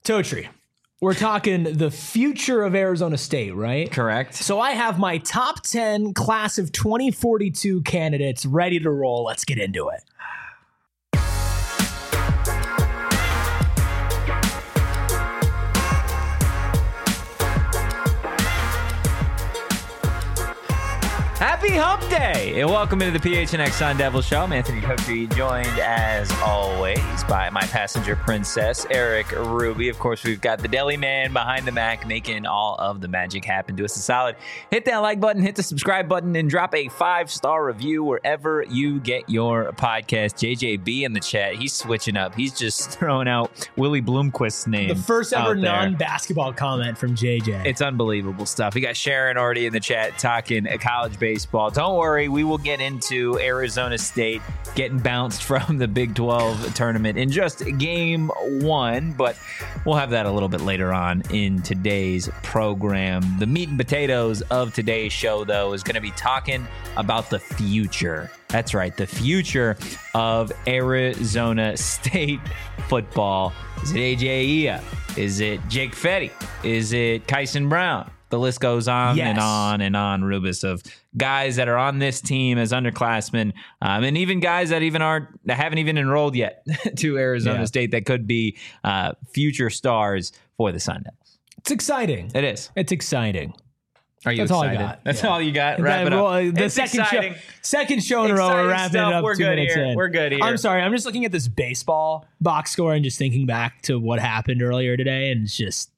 Totri, we're talking the future of Arizona State, right? Correct. So I have my top 10 class of 2042 candidates ready to roll. Let's get into it. Happy Hump Day, and welcome into the PHNX Sun Devil Show. I'm Anthony Totri, joined as always by my passenger princess, Eric Ruby. Of course, we've got the deli man behind the Mac making all of the magic happen. Do us a solid. Hit that like button, hit the subscribe button, and drop a 5-star review wherever you get your podcast. JJB in the chat, he's switching up. He's just throwing out Willie Bloomquist's name. The first ever out there. Non-basketball comment from JJ. It's unbelievable stuff. We got Sharon already in the chat talking college baseball. Don't worry, we will get into Arizona State getting bounced from the Big 12 tournament in just game one, but we'll have that a little bit later on in today's program. The meat and potatoes of today's show, though, is going to be talking about the future. That's right, the future of Arizona State football. Is it AJ Ia? Is it Jake Fetty? Is it Kyson Brown? The list goes on and on and on, Rubis, of guys that are on this team as underclassmen, and even guys that haven't even enrolled yet to Arizona State that could be future stars for the Sun Devils. It's exciting. It is. It's exciting. Are you That's excited? all I got. That's all you got? Wrap it up. The It's second show in a row, we're wrapping it up. We're 2 good minutes here. in. We're good here. I'm sorry. I'm just looking at this baseball box score and just thinking back to what happened earlier today, and it's just,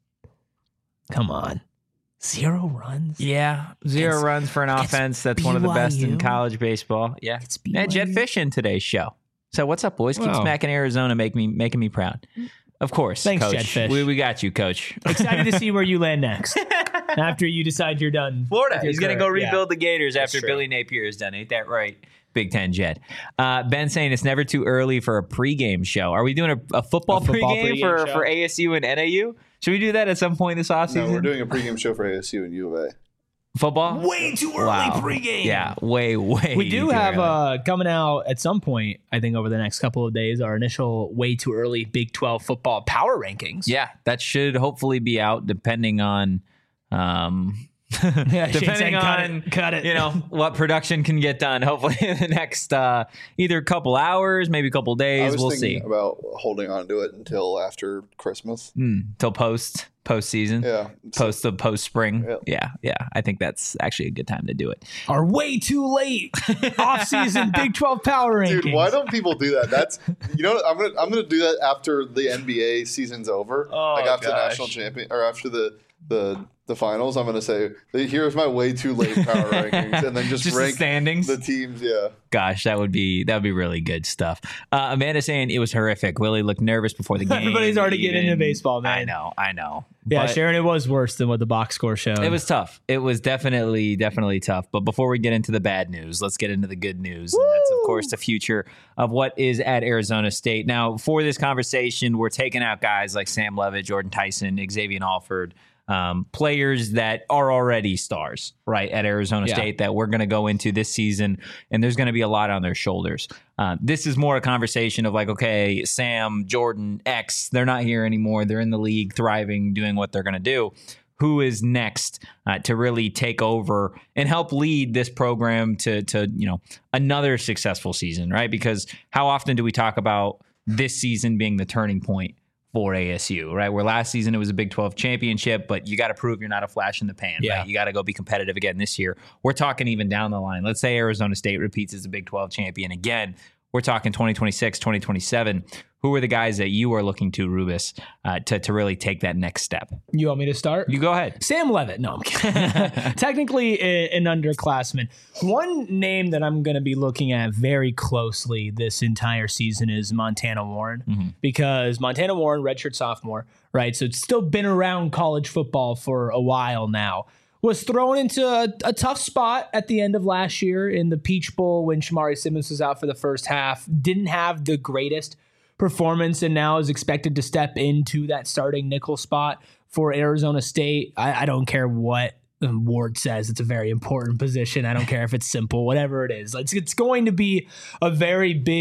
come on. 0 runs? Yeah, 0 runs for an offense that's one of the best in college baseball. Yeah. And Jed Fish in today's show. So what's up, boys? Keep smacking Arizona, making me proud. Of course, thanks, Coach. Jed Fish. We got you, Coach. Excited to see where you land next after you decide you're done. Florida. He's going to go rebuild the Gators after Billy Napier is done. Ain't that right? Big Ten Jed. Ben saying it's never too early for a pregame show. Are we doing a football pregame for ASU and NAU? Should we do that at some point this offseason? No, we're doing a pregame show for ASU and U of A. Football? Way too early pregame. Yeah, way. We do have coming out at some point, I think over the next couple of days, our initial way too early Big 12 football power rankings. Yeah, that should hopefully be out depending on depending on cut it. You know, what production can get done. Hopefully in the next either couple hours, maybe a couple days. We'll see. About holding on to it until after Christmas. Till postseason. Yeah. Post spring. Yep. Yeah. I think that's actually a good time to do it. Our way too late off-season Big 12 power rankings. Dude, why don't people do that? That's I'm gonna do that after the NBA season's over. After the national champion or after the finals, I'm going to say, here's my way too late power rankings, and then just rank the standings, the teams. Yeah. Gosh, that would be really good stuff. Amanda saying it was horrific. Willie looked nervous before the game. Everybody's already getting into baseball, man. I know. Yeah, but Sharon, it was worse than what the box score showed. It was tough. It was definitely tough. But before we get into the bad news, let's get into the good news. And that's, of course, the future of what is at Arizona State. Now, for this conversation, we're taking out guys like Sam Levitt, Jordan Tyson, Xavier Alford, players that are already stars, right, at Arizona State that we're going to go into this season, and there's going to be a lot on their shoulders. This is more a conversation of like, okay, Sam, Jordan, X, they're not here anymore. They're in the league, thriving, doing what they're going to do. Who is next to really take over and help lead this program to another successful season, right? Because how often do we talk about this season being the turning point for ASU, right? Where last season it was a Big 12 championship, but you got to prove you're not a flash in the pan, right? You got to go be competitive again this year. We're talking even down the line. Let's say Arizona State repeats as a Big 12 champion again. We're talking 2026, 2027. Who are the guys that you are looking to, Rubis, to really take that next step? You want me to start? You go ahead. Sam Levitt. No, I'm kidding. Technically an underclassman. One name that I'm going to be looking at very closely this entire season is Montana Warren, because Montana Warren, redshirt sophomore, right? So it's still been around college football for a while now. Was thrown into a tough spot at the end of last year in the Peach Bowl when Shamari Simmons was out for the first half. Didn't have the greatest performance and now is expected to step into that starting nickel spot for Arizona State. I don't care what Ward says. It's a very important position. I don't care if it's simple, whatever it is. It's going to be a very big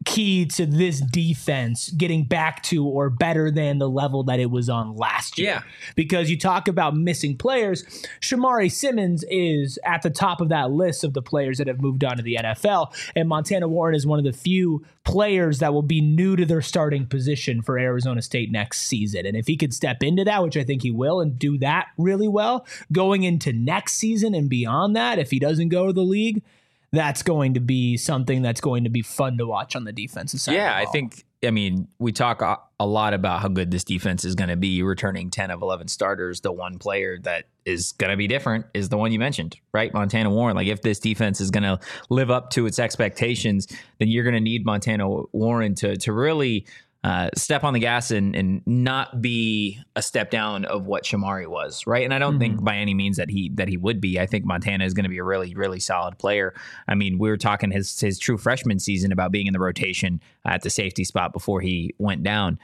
key to this defense getting back to or better than the level that it was on last year. Yeah. Because you talk about missing players, Shamari Simmons is at the top of that list of the players that have moved on to the NFL, and Montana Warren is one of the few players that will be new to their starting position for Arizona State next season. And if he could step into that, which I think he will, and do that really well, going into next season and beyond that, if he doesn't go to the league, that's going to be something that's going to be fun to watch on the defensive side. Yeah, I mean, we talk a lot about how good this defense is going to be. Returning 10 of 11 starters, the one player that is going to be different is the one you mentioned, right? Montana Warren. Like, if this defense is going to live up to its expectations, then you're going to need Montana Warren to really step on the gas and not be a step down of what Shamari was, right? And I don't think by any means that he would be. I think Montana is going to be a really, really solid player. I mean, we were talking his true freshman season about being in the rotation at the safety spot before he went down.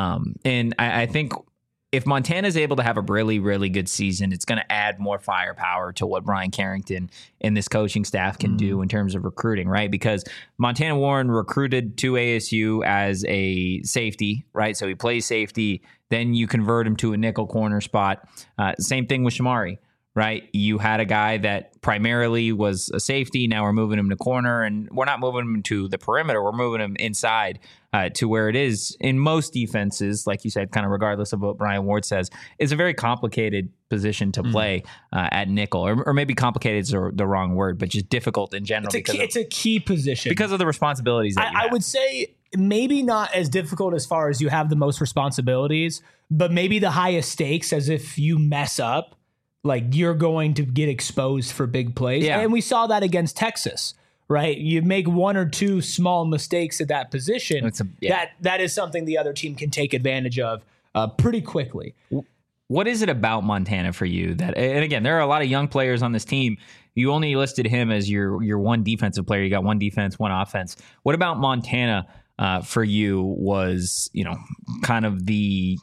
And I think if Montana is able to have a really, really good season, it's going to add more firepower to what Brian Carrington and this coaching staff can do in terms of recruiting, right? Because Montana Warren recruited to ASU as a safety, right? So he plays safety. Then you convert him to a nickel corner spot. Same thing with Shamari, right? You had a guy that primarily was a safety. Now we're moving him to corner, and we're not moving him to the perimeter. We're moving him inside to where it is in most defenses, like you said, kind of regardless of what Brian Ward says, is a very complicated position to play at nickel, or maybe complicated is the wrong word, but just difficult in general. It's a key position because of the responsibilities that I would say maybe not as difficult as far as you have the most responsibilities, but maybe the highest stakes, as if you mess up, like, you're going to get exposed for big plays. Yeah. And we saw that against Texas, right? You make one or two small mistakes at that position. That is something the other team can take advantage of pretty quickly. What is it about Montana for you that, and again, there are a lot of young players on this team. You only listed him as your one defensive player. You got one defense, one offense. What about Montana for you was, kind of the,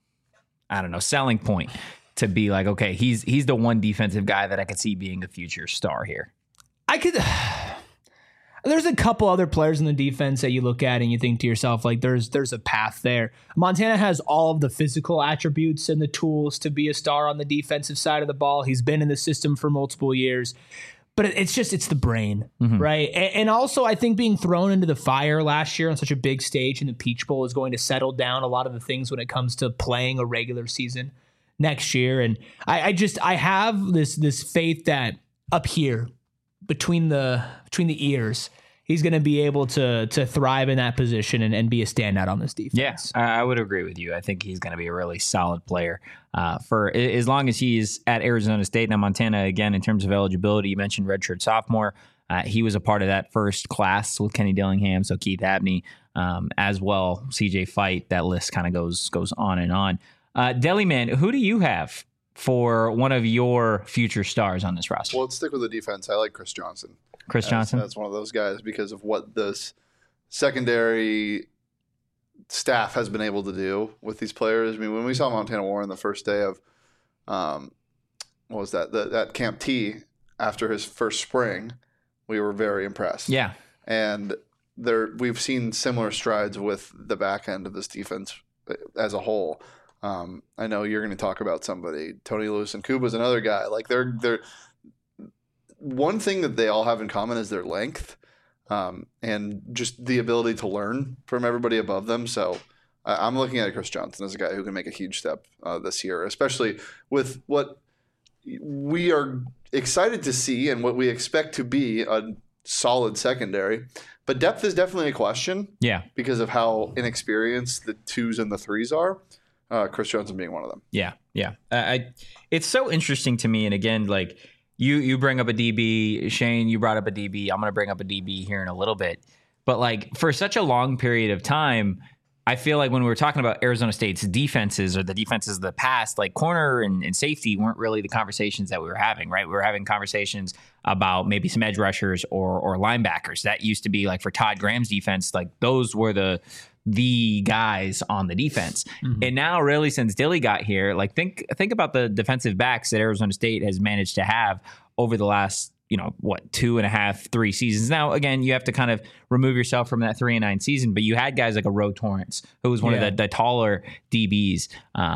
selling point to be like, okay, he's the one defensive guy that I could see being a future star here? There's a couple other players in the defense that you look at and you think to yourself, like, there's a path there. Montana has all of the physical attributes and the tools to be a star on the defensive side of the ball. He's been in the system for multiple years, but it's the brain, right? And also, I think being thrown into the fire last year on such a big stage in the Peach Bowl is going to settle down a lot of the things when it comes to playing a regular season next year. And I have this faith that up here between the ears, he's going to be able to thrive in that position and be a standout on this defense. Yeah, I would agree with you. I think he's going to be a really solid player for as long as he's at Arizona State. Now, Montana, again, in terms of eligibility, you mentioned redshirt sophomore. He was a part of that first class with Kenny Dillingham, so Keith Abney as well, CJ Fight. That list kind of goes on and on. Deli Man, who do you have for one of your future stars on this roster? Well, let's stick with the defense. I like Chris Johnson. Johnson? That's one of those guys because of what this secondary staff has been able to do with these players. I mean, when we saw Montana Warren the first day of, what was that? That Camp T after his first spring, we were very impressed. Yeah. And we've seen similar strides with the back end of this defense as a whole. I know you're going to talk about somebody. Tony Lewis and Kuba's another guy. Like they're one thing that they all have in common is their length, and just the ability to learn from everybody above them. So I'm looking at Chris Johnson as a guy who can make a huge step this year, especially with what we are excited to see and what we expect to be a solid secondary. But depth is definitely a question. Yeah. Because of how inexperienced the 2s and the 3s are. Chris Johnson being one of them. Yeah. It's so interesting to me. And again, like you bring up a DB, Shane, you brought up a DB. I'm going to bring up a DB here in a little bit. But like for such a long period of time, I feel like when we were talking about Arizona State's defenses or the defenses of the past, like corner and safety weren't really the conversations that we were having, right? We were having conversations about maybe some edge rushers or linebackers. That used to be like for Todd Graham's defense, like those were the guys on the defense. Mm-hmm. And now really since Dilly got here, like think about the defensive backs that Arizona State has managed to have over the last 2.5, 3 seasons. Now, again, you have to kind of remove yourself from that 3-9 season, but you had guys like a Ro Torrance, who was one of the taller DBs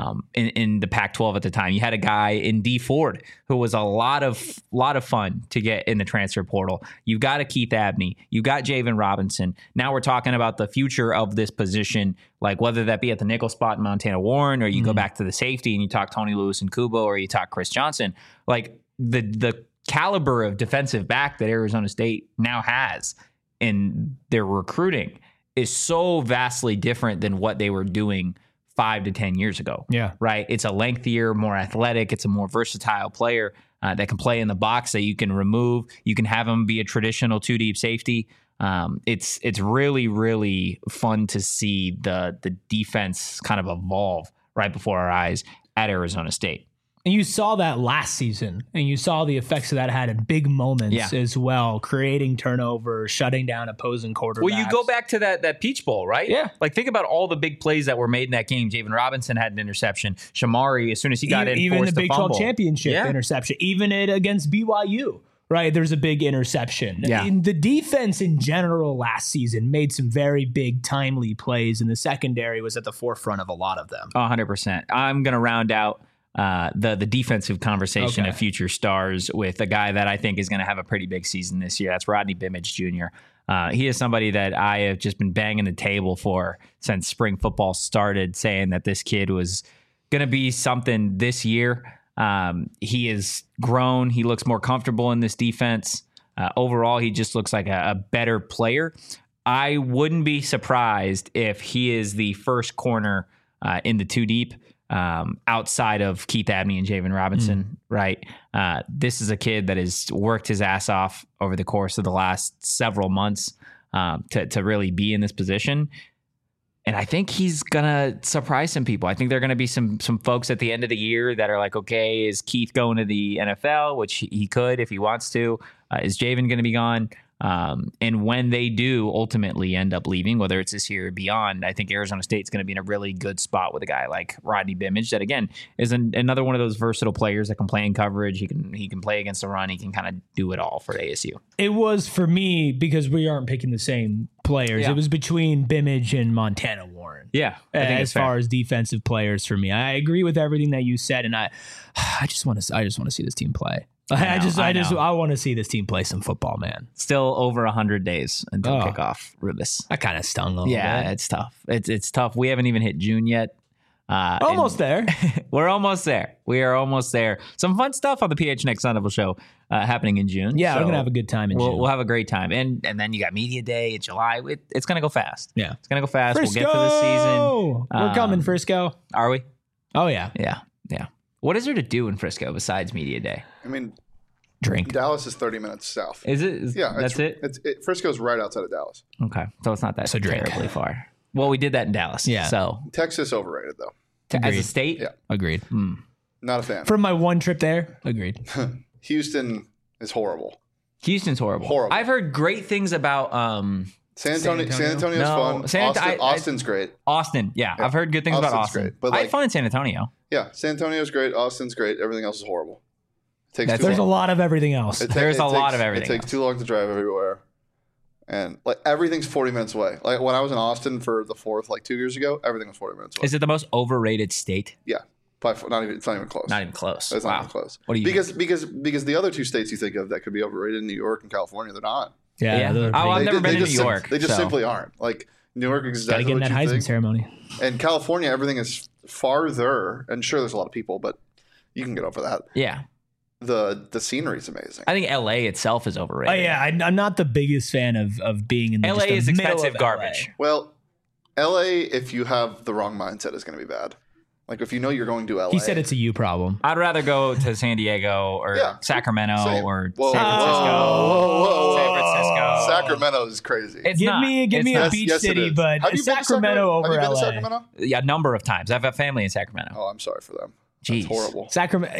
in the Pac-12 at the time. You had a guy in D Ford who was a lot of fun to get in the transfer portal. You've got a Keith Abney. You got Javen Robinson. Now we're talking about the future of this position, like whether that be at the nickel spot in Montana Warren, or you go back to the safety and you talk Tony Lewis and Kubo, or you talk Chris Johnson. Like the caliber of defensive back that Arizona State now has in their recruiting is so vastly different than what they were doing 5 to 10 years ago. Yeah. Right. It's a lengthier, more athletic. It's a more versatile player that can play in the box that you can remove. You can have him be a traditional 2-deep safety. It's really, really fun to see the defense kind of evolve right before our eyes at Arizona State. And you saw that last season, and you saw the effects of that had in big moments as well, creating turnovers, shutting down opposing quarterbacks. Well, you go back to that Peach Bowl, right? Yeah. Like, think about all the big plays that were made in that game. Javen Robinson had an interception. Shamari, as soon as he got in, even forced the Big 12 fumble. Championship interception, even it against BYU. Right, there's a big interception. Yeah. The defense in general last season made some very big, timely plays, and the secondary was at the forefront of a lot of them. 100%. I'm going to round out the defensive conversation of future stars with a guy that I think is going to have a pretty big season this year. That's Rodney Bimage Jr. He is somebody that I have just been banging the table for since spring football started, saying that this kid was going to be something this year. He has grown. He looks more comfortable in this defense. Overall, he just looks like a better player. I wouldn't be surprised if he is the first corner in the 2-deep outside of Keith Abney and Javen Robinson, right? This is a kid that has worked his ass off over the course of the last several months to really be in this position. And I think he's going to surprise some people. I think there are going to be some folks at the end of the year that are like, okay, is Keith going to the NFL, which he could if he wants to? Is Javen going to be gone? And when they do ultimately end up leaving, whether it's this year or beyond, I think Arizona State's going to be in a really good spot with a guy like Rodney Bimage that, again, is another one of those versatile players that can play in coverage. He can play against the run. He can kind of do it all for ASU. It was for me, because we aren't picking the same players. Yeah. It was between Bimage and Montana Warren. Yeah. As far as defensive players for me, I agree with everything that you said. And I just want to see this team play. I want to see this team play some football, man. Still over 100 days until kickoff, Rubis. That kind of stung a little bit. Yeah, it's tough. It's tough. We haven't even hit June yet. Almost there. We're almost there. We are almost there. Some fun stuff on the PHNX Sun Devil Show happening in June. Yeah, we're going to have a good time in June. We'll have a great time. And then you got Media Day in July. It's going to go fast. Yeah. It's going to go fast. Frisco! We'll get to the season. We're coming, Frisco. Are we? Oh, yeah. Yeah. What is there to do in Frisco besides Media Day? I mean, drink. Dallas is 30 minutes south. Is it? Yeah. That's it? Frisco's right outside of Dallas. Okay. So it's not that terribly far. Well, we did that in Dallas. Yeah. So Texas overrated, though. As a state? Yeah. Agreed. Not a fan. From my one trip there, agreed. Houston is horrible. Houston's horrible. I've heard great things about San Antonio's fun. Austin's great. Austin, yeah. I've heard good things about Austin. Great, but I had fun in San Antonio. Yeah, San Antonio's great. Austin's great. Everything else is horrible. There's a lot of everything else. There's a lot of everything. It takes too long to drive everywhere. And like everything's 40 minutes away. Like when I was in Austin for the 4th, like 2 years ago, everything was 40 minutes away. Is it the most overrated state? Yeah. It's not even close. Not even close. It's not even close. What do you because the other 2 states you think of that could be overrated, New York and California, they're not. Yeah. I've never been to New York. They just simply aren't. Like New York is exactly what you think. Got to get in that Heisman ceremony. And California, everything is farther. And sure, there's a lot of people, but you can get over that. Yeah. The scenery is amazing. I think LA itself is overrated. Oh yeah, I'm not the biggest fan of being in the LA is expensive garbage. Well, LA, if you have the wrong mindset, is going to be bad. Like if you know you're going to LA. He said it's a you problem. I'd rather go to San Diego or Sacramento or San Francisco. San Francisco. Sacramento is crazy. Give me a beach city, but Sacramento over LA. Have you been to Sacramento? Yeah, a number of times. I have a family in Sacramento. Oh, I'm sorry for them. Jeez. That's horrible.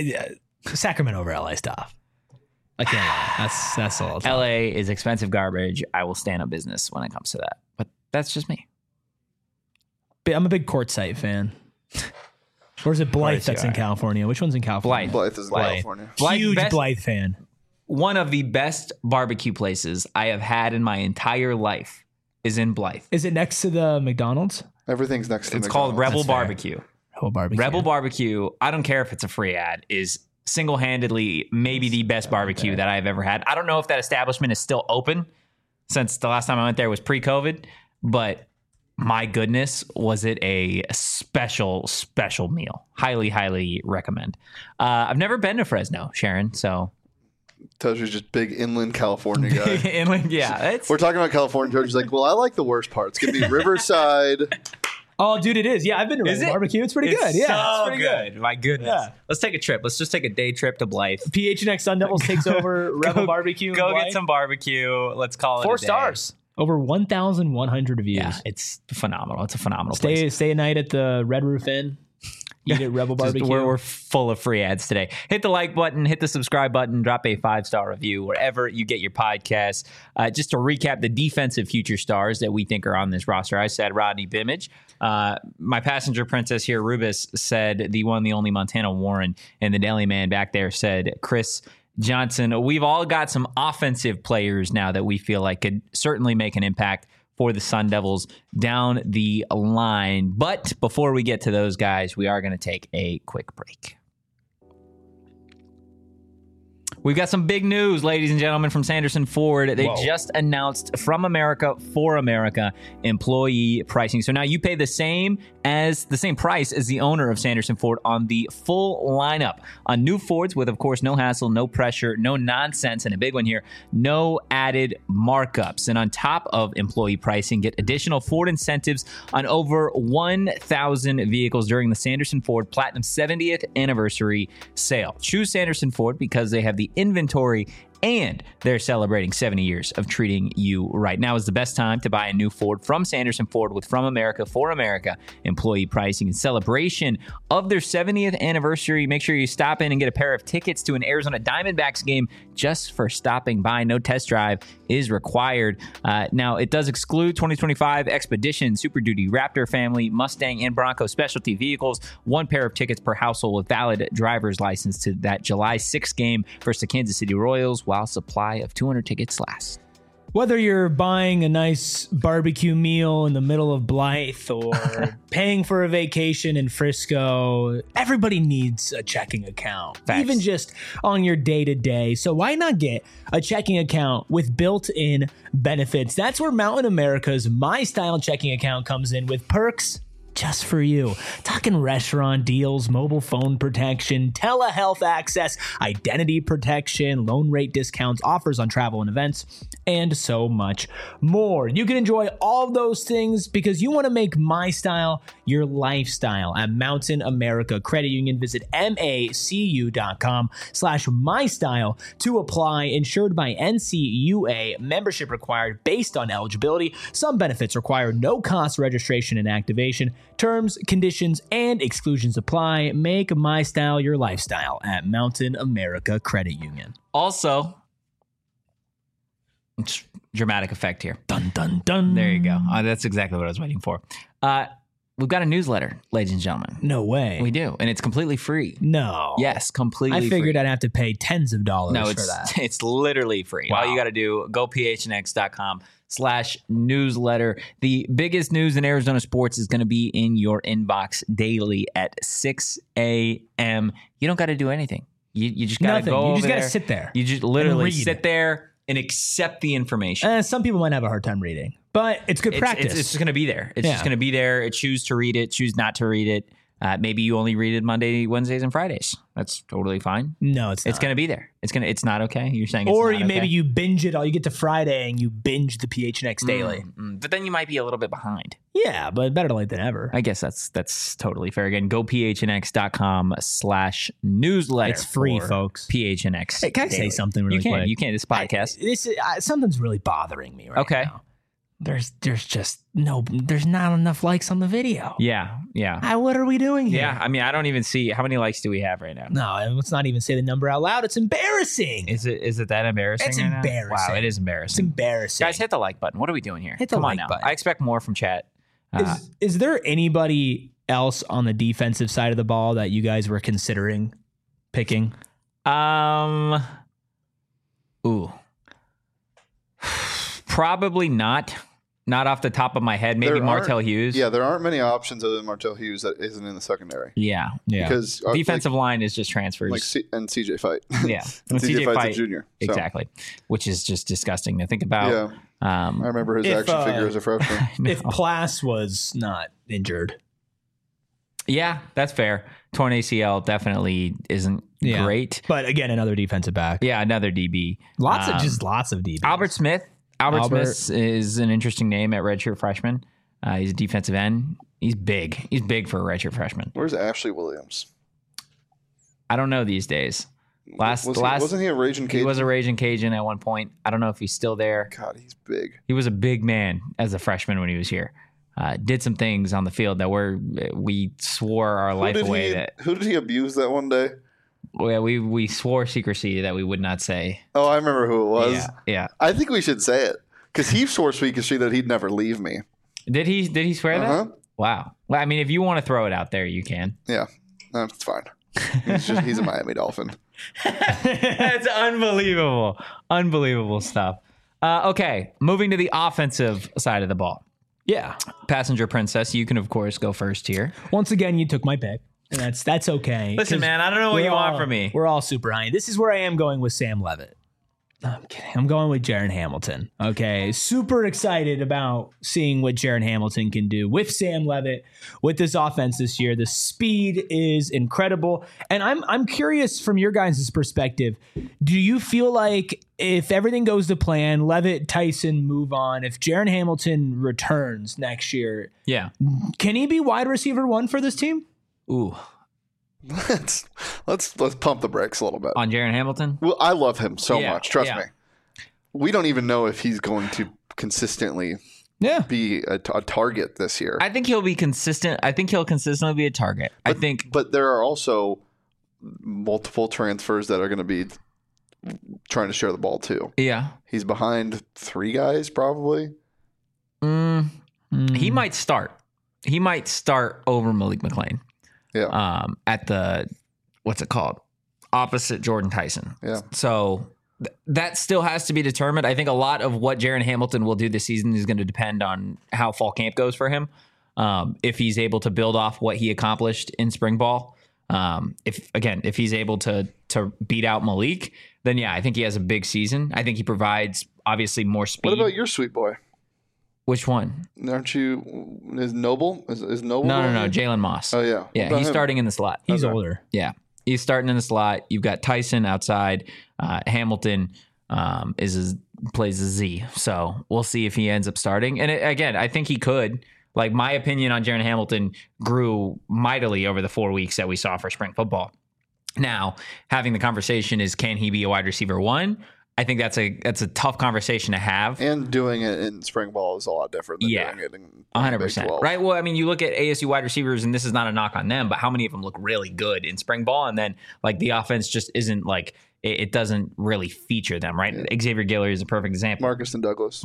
Sacramento over LA stuff. I can't lie. That's all. LA is expensive garbage. I will stand on business when it comes to that. But that's just me. I'm a big Quartzsite fan. Or is it Blythe that's in California? Which one's in California? Blythe is in California. Huge Blythe fan. one of the best barbecue places I have had in my entire life is in Blythe. Is it next to the McDonald's? Everything's next to It's McDonald's. called Rebel That's fair. Barbecue. Rebel Barbecue. Rebel Barbecue, I don't care if it's a free ad, is single-handedly maybe the best barbecue that I've ever had. I don't know if that establishment is still open since the last time I went there was pre-COVID, but my goodness, was it a special, special meal. Highly, highly recommend. I've never been to Fresno, Sharon, so... Tojo's just big inland California guy. Inland, yeah. We're talking about California. Tojo's like, well, I like the worst part. It's going to be Riverside. Oh, dude, it is. Yeah, I've been to Is Rebel it? Barbecue. It's pretty good. Yeah, so it's pretty good. My goodness. Yeah. Let's take a trip. Let's just take a day trip to Blythe. PHNX Sun Devils takes over Rebel Barbecue. Go in get Blythe. some barbecue. Let's call it 4 a day. stars. Over 1,100 reviews. Yeah, it's phenomenal. It's a phenomenal place. Stay a night at the Red Roof Inn. Eat at Rebel Just Barbecue. we're full of free ads today. Hit the like button, hit the subscribe button, drop a 5-star review wherever you get your podcasts. Just to recap the defensive future stars that we think are on this roster. I said Rodney Bimage. My passenger princess here, Rubis, said the one, the only Montana Warren, and the Daily Man back there said Chris Johnson. We've all got some offensive players now that we feel like could certainly make an impact for the Sun Devils down the line. But before we get to those guys, we are going to take a quick break. We've got some big news, ladies and gentlemen, from Sanderson Ford. They just announced From America for America employee pricing. So now you pay the same price as the owner of Sanderson Ford on the full lineup on new Fords with, of course, no hassle, no pressure, no nonsense, and a big one here, no added markups. And on top of employee pricing, get additional Ford incentives on over 1,000 vehicles during the Sanderson Ford Platinum 70th anniversary sale. Choose Sanderson Ford because they have the inventory and they're celebrating 70 years of treating you right. Now is the best time to buy a new Ford from Sanderson Ford with From America for America employee pricing. In celebration of their 70th anniversary, make sure you stop in and get a pair of tickets to an Arizona Diamondbacks game just for stopping by. No test drive is required. Now, it does exclude 2025 Expedition, Super Duty, Raptor family, Mustang, and Bronco specialty vehicles. 1 pair of tickets per household with valid driver's license to that July 6th game versus the Kansas City Royals while supply of 200 tickets lasts. Whether you're buying a nice barbecue meal in the middle of Blythe or paying for a vacation in Frisco, everybody needs a checking account, Facts. even just on your day-to-day. So why not get a checking account with built-in benefits? That's where Mountain America's My Style checking account comes in with perks just for you. Talking restaurant deals, mobile phone protection, telehealth access, identity protection, loan rate discounts, offers on travel and events, and so much more. You can enjoy all of those things because you want to make My Style your lifestyle at Mountain America Credit Union. Visit macu.com/mystyle to apply. Insured by NCUA. Membership required based on eligibility. Some benefits require no cost registration and activation. Terms, conditions, and exclusions apply. Make My Style your lifestyle at Mountain America Credit Union. Also, dramatic effect here. Dun, dun, dun. There you go. That's exactly what I was waiting for. We've got a newsletter, ladies and gentlemen. No way. We do, and it's completely free. No. Yes, completely free. I figured I'd have to pay tens of dollars No, for it's that. it's literally free. Wow. All you got to do, go phnx.com/newsletter. The biggest news in Arizona sports is going to be in your inbox daily at 6 a.m. You don't got to do anything. You just got to Nothing. go You over just got there. to sit there. You just literally read. sit there and accept the information. Some people might have a hard time reading, but it's good practice. It's just going to be there. It's just going to be there. Choose to read it. Choose not to read it. Maybe you only read it Monday, Wednesdays, and Fridays. That's totally fine. No, it's not. It's going to be there. It's not okay. You're saying it's or not you maybe okay? you binge it all. You get to Friday and you binge the PHNX daily. But then you might be a little bit behind. Yeah, but better late than ever. I guess that's totally fair. Again, go phnx.com/newsletter. It's free, for folks. PHNX. Hey, can I say daily. something really You can. quick? You can. This podcast. Something's really bothering me right Okay. now. There's not enough likes on the video. Yeah. What are we doing here? Yeah. I mean, I don't even see how many likes do we have right now. No, let's not even say the number out loud. It's embarrassing. Is it that embarrassing? It's right now? embarrassing. Wow, it is It's embarrassing. embarrassing. Guys, hit the like button. What are we doing here? Hit the Come like on now. button. I expect more from chat. Is there anybody else on the defensive side of the ball that you guys were considering picking? Ooh. Probably not. Not off the top of my head. Maybe Martell Hughes. Yeah, there aren't many options other than Martell Hughes that isn't in the secondary. Yeah. Because defensive line is just transfers. And CJ Fight. Yeah. And CJ Fight's a junior. So. Exactly. Which is just disgusting to think about. Yeah. I remember his action figure as a freshman. If Plas was not injured. Yeah, that's fair. Torn ACL definitely isn't great. But again, another defensive back. Yeah, another DB. Lots of DBs. Albert Smith. Albert Smith is an interesting name at redshirt freshman. He's a defensive end. He's big. He's big for a redshirt freshman. Where's Ashley Williams? I don't know these days. Wasn't he a Raging Cajun? He was a Raging Cajun at one point. I don't know if he's still there. God, he's big. He was a big man as a freshman when he was here. Did some things on the field that we swore our life away. Who did he abuse that one day? Well, we swore secrecy that we would not say. Oh, I remember who it was. Yeah. I think we should say it because he swore secrecy that he'd never leave me. Did he swear that? Wow. Well, I mean, if you want to throw it out there, you can. Yeah, that's fine. He's a Miami Dolphin. That's unbelievable. Unbelievable stuff. Okay, moving to the offensive side of the ball. Yeah. Passenger Princess, you can, of course, go first here. Once again, you took my pick. And that's okay. Listen, man, I don't know what you want from me. We're all super high. This is where I am going with Sam Levitt. No, I'm kidding. I'm going with Jaron Hamilton. Okay. Super excited about seeing what Jaron Hamilton can do with Sam Levitt, with this offense this year. The speed is incredible. And I'm curious from your guys' perspective, do you feel like if everything goes to plan, Levitt, Tyson move on, if Jaron Hamilton returns next year, can he be wide receiver 1 for this team? Ooh. Let's pump the brakes a little bit. On Jaron Hamilton? Well, I love him so much. Trust me. We don't even know if he's going to consistently be a target this year. I think he'll be consistent. I think he'll consistently be a target. But there are also multiple transfers that are going to be trying to share the ball too. Yeah. He's behind 3 guys probably. He might start. He might start over Malik McClain. Yeah. At the, what's it called? Opposite Jordan Tyson. Yeah. So that still has to be determined. I think a lot of what Jaron Hamilton will do this season is going to depend on how fall camp goes for him. If he's able to build off what he accomplished in spring ball. If he's able to beat out Malik, then I think he has a big season. I think he provides obviously more speed. What about your sweet boy? Which one? Aren't you? Is Noble? Is Noble? No. Jalen Moss. Oh yeah. Yeah, he's starting in the slot. He's older. Yeah, he's starting in the slot. You've got Tyson outside. Hamilton plays a Z. So we'll see if he ends up starting. And I think he could. Like, my opinion on Jaron Hamilton grew mightily over the 4 weeks that we saw for spring football. Now, having the conversation is, can he be a wide receiver 1? I think that's a tough conversation to have. And doing it in spring ball is a lot different than doing it in 100%. Right? Well, I mean, you look at ASU wide receivers, and this is not a knock on them, but how many of them look really good in spring ball? And then, like, the offense just isn't, like, it doesn't really feature them, right? Yeah. Xavier Guillory is a perfect example. Marcus Douglas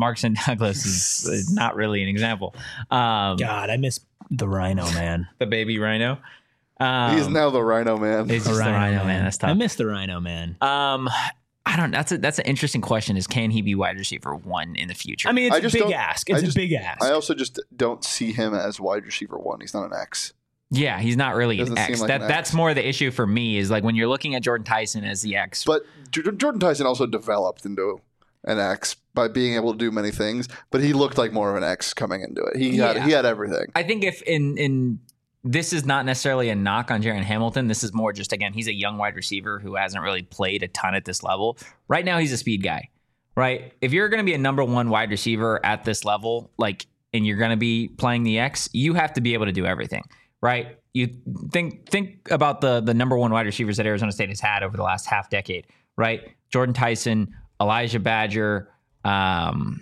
is not really an example. God, I miss the Rhino, man. The baby Rhino. He's now the Rhino man. He's just the Rhino man. That's tough. I miss the Rhino man. I don't know. That's an interesting question, is can he be wide receiver 1 in the future? I mean, it's a big ask. It's a big ask. I also just don't see him as wide receiver 1. He's not an X. Yeah, he's not really an X. Like that's more the issue for me, is like when you're looking at Jordan Tyson as the X. But Jordan Tyson also developed into an X by being able to do many things, but he looked like more of an X coming into it. He had everything. I think if in this is not necessarily a knock on Jaron Hamilton. This is more just, again, he's a young wide receiver who hasn't really played a ton at this level. Right now, he's a speed guy, right? If you're going to be a number 1 wide receiver at this level, like, and you're going to be playing the X, you have to be able to do everything, right? You think about the number 1 wide receivers that Arizona State has had over the last half decade, right? Jordan Tyson, Elijah Badger. I'm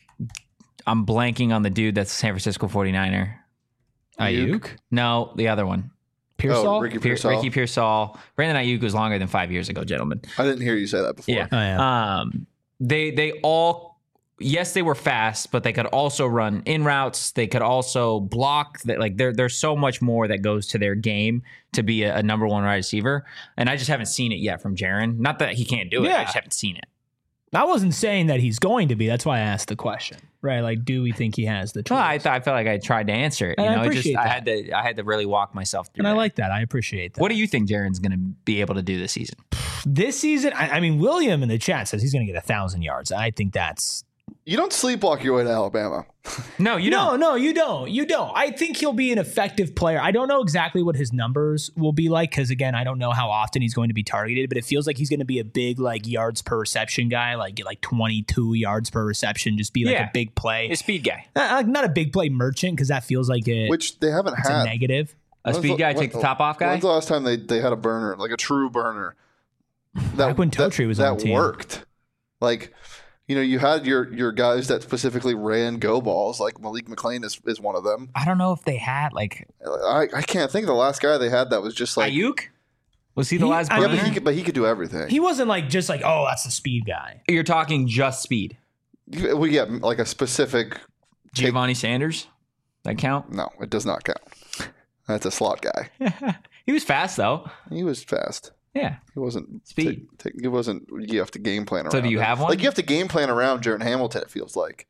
blanking on the dude that's a San Francisco 49er. Ayuk? No, the other one. Pearsall? Ricky Pearsall. Ricky Pearsall. Brandon Ayuk was longer than 5 years ago, gentlemen. I didn't hear you say that before. Yeah. Oh, yeah. They all, yes, they were fast, but they could also run in routes. They could also block. That, like, there's so much more that goes to their game to be a number 1 wide receiver. And I just haven't seen it yet from Jaron. Not that he can't do it. I just haven't seen it. I wasn't saying that he's going to be. That's why I asked the question, right? Like, do we think he has the tools? Well, I felt like I tried to answer it. And I appreciate that. I had to really walk myself through. And that. I like that. I appreciate that. What do you think Jaren's going to be able to do this season? This season, I mean, William in the chat says he's going to get 1,000 yards. I think that's... You don't sleepwalk your way to Alabama. No, you don't. No, you don't. You don't. I think he'll be an effective player. I don't know exactly what his numbers will be like because, again, I don't know how often he's going to be targeted, but it feels like he's going to be a big like yards per reception guy, like get like 22 yards per reception, just be like a big play. A speed guy. Not a big play merchant because that feels like it. Which they haven't had. A negative. A speed guy, take the top off guy? When's the last time they had a burner, like a true burner? Back when Totri was on the team. That worked. Like... You know, you had your guys that specifically ran go balls, like Malik McClain is one of them. I don't know if they had like I can't think of the last guy they had that was just like Ayuk. Was he the last? Yeah, but he could do everything. He wasn't like just like, oh, that's the speed guy. You're talking just speed. We get like a specific Giovanni Sanders. That count? No, it does not count. That's a slot guy. He was fast though. He was fast. Yeah, he wasn't speed. He wasn't. You have to game plan around. So do you have one? Like you have to game plan around Jaren Hamilton. It feels like.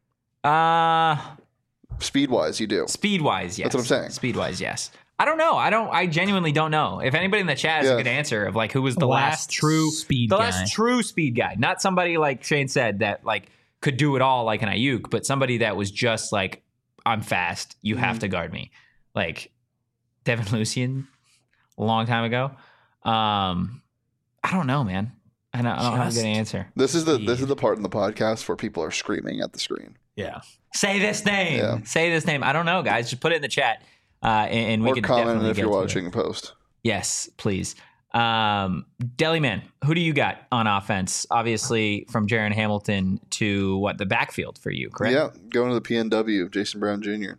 Speed wise, you do. Speed wise, yes. That's what I'm saying. Speed wise, yes. I don't know. I genuinely don't know. If anybody in the chat has a good answer of like who was the last true speed guy, not somebody like Shane said that like could do it all like an Ayuk, but somebody that was just like, I'm fast. You have to guard me, like Devin Lucien, a long time ago. I don't know, man. I don't have a good answer. This is the part in the podcast where people are screaming at the screen. Yeah. Say this name. Yeah. Say this name. I don't know, guys. Just put it in the chat, and we can comment if you're watching the post. Yes, please. Deli Man, who do you got on offense? Obviously, from Jaren Hamilton to the backfield for you, correct? Yeah, going to the PNW, Jason Brown Jr.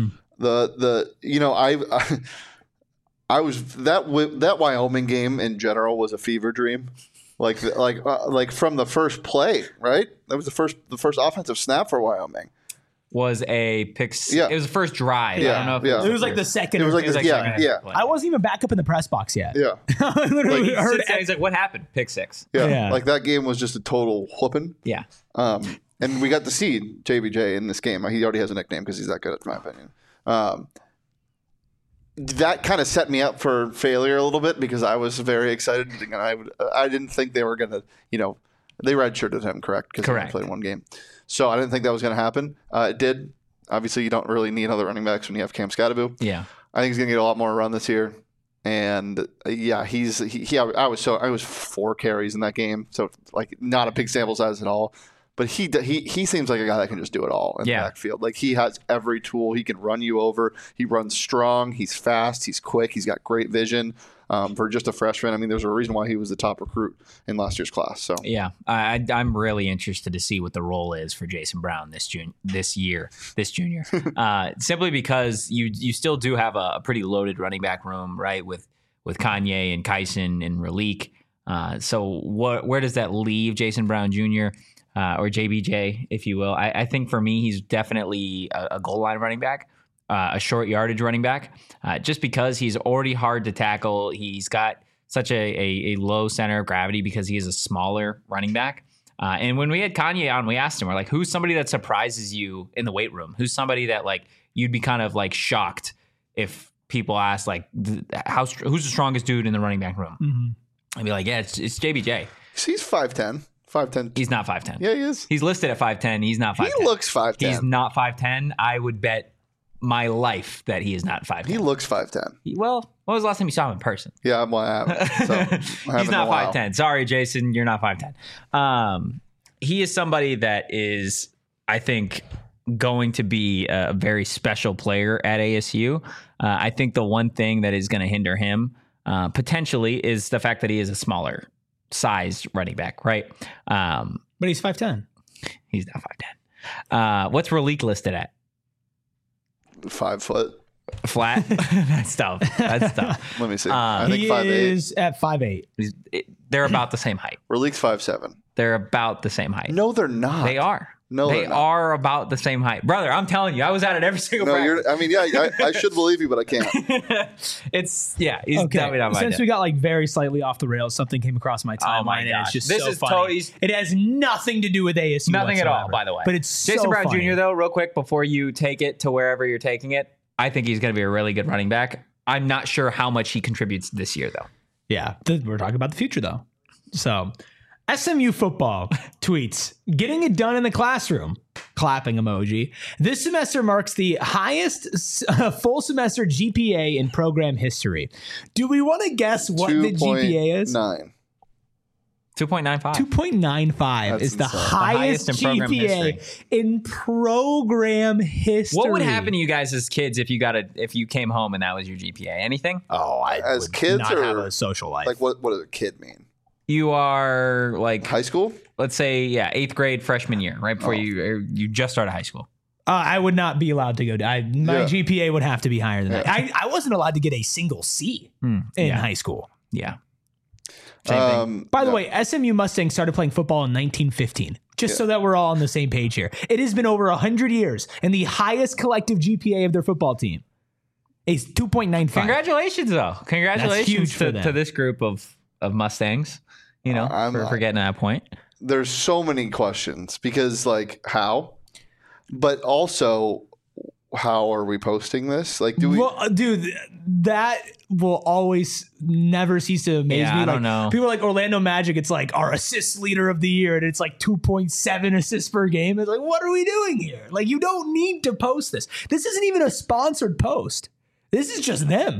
I was that Wyoming game in general was a fever dream, like from the first play, right? That was the first offensive snap for Wyoming. Was a pick. Yeah. It was the first drive. Yeah. I don't know if it was like the second. It was like yeah. I wasn't even back up in the press box yet. Yeah. I literally heard. He's like, "What happened?" Pick six. Yeah. Like that game was just a total whooping. Yeah. And we got to see JBJ in this game. He already has a nickname because he's that good, in my opinion. That kind of set me up for failure a little bit because I was very excited and I didn't think they were going to, they redshirted him, correct? Because he only played one game. So I didn't think that was going to happen. It did. Obviously, you don't really need other running backs when you have Cam Scatterbo. Yeah. I think he's going to get a lot more run this year. And yeah, I was 4 carries in that game. So like not a big sample size at all. But he seems like a guy that can just do it all in the backfield. Like he has every tool. He can run you over. He runs strong. He's fast. He's quick. He's got great vision. For just a freshman, I mean, there's a reason why he was the top recruit in last year's class. So yeah, I'm really interested to see what the role is for Jason Brown this junior, simply because you still do have a pretty loaded running back room, right? With Kanye and Kyson and Raleek. So where does that leave Jason Brown Jr.? Or JBJ, if you will. I think for me, he's definitely a goal line running back, a short yardage running back, just because he's already hard to tackle. He's got such a low center of gravity because he is a smaller running back. And when we had Kanye on, we asked him, we're like, who's somebody that surprises you in the weight room? Who's somebody that like you'd be kind of like shocked if people asked like, who's the strongest dude in the running back room? Mm-hmm. I'd be like, yeah, it's JBJ. He's 5'10". 5'10". He's not 5'10". Yeah, he is. He's listed at 5'10". He's not 5'10". He looks 5'10". He's not 5'10". I would bet my life that he is not 5'10". He looks 5'10". Well, when was the last time you saw him in person? Yeah, I haven't. So he's not 5'10". Sorry, Jason, you're not 5'10". He is somebody that is, I think, going to be a very special player at ASU. I think the one thing that is going to hinder him potentially is the fact that he is a smaller sized running back, right? But he's 5'10". He's not 5'10". What's Raleek listed at? 5 foot. Flat? That's tough. Let me see. I think 5'8". He is at 5'8". They're about the same height. Raleek's 5'7". They're about the same height. No, they're not. They are. No, They are about the same height. Brother, I'm telling you, I was at it every single practice. I should believe you, but I can't. He's Okay. definitely not my Since dad. we got like very slightly off the rails, something came across my timeline. Oh my and gosh. it's just This so is funny. totally- It has nothing to do with ASU. Nothing at all, whatsoever. by the way. But it's Jason so Brown funny. Jr., though, real quick, before you take it to wherever you're taking it, I think he's going to be a really good running back. I'm not sure how much he contributes this year, though. Yeah, we're talking about the future though. So, SMU football tweets, getting it done in the classroom. Clapping emoji. This semester marks the highest full semester GPA in program history. Do we want to guess what the GPA is? 2.9. 2.95. 2.95 That's is the insane. highest in program GPA history. in program history. What would happen to you guys as kids if you came home and that was your GPA? Anything? Oh, I As would kids not or have a social life. Like what does a kid mean? You are like, High school? let's say, 8th grade freshman year, right before you just started high school. I would not be allowed to go. My Yeah. GPA would have to be higher than that. I wasn't allowed to get a single C in high school. Yeah. Same thing. By the way, SMU Mustangs started playing football in 1915. Just so that we're all on the same page here. It has been over 100 years, and the highest collective GPA of their football team is 2.95. Congratulations, though. Congratulations huge for them. to this group of Mustangs, for getting to that point. There's so many questions because like how? But also how are we posting this? Like do we Well, dude, that will always never cease to amaze Yeah, me. I Like, don't know. people like Orlando Magic, it's like our assist leader of the year, and it's like 2.7 assists per game. It's like, what are we doing here? Like, you don't need to post this. This isn't even a sponsored post. This is just them.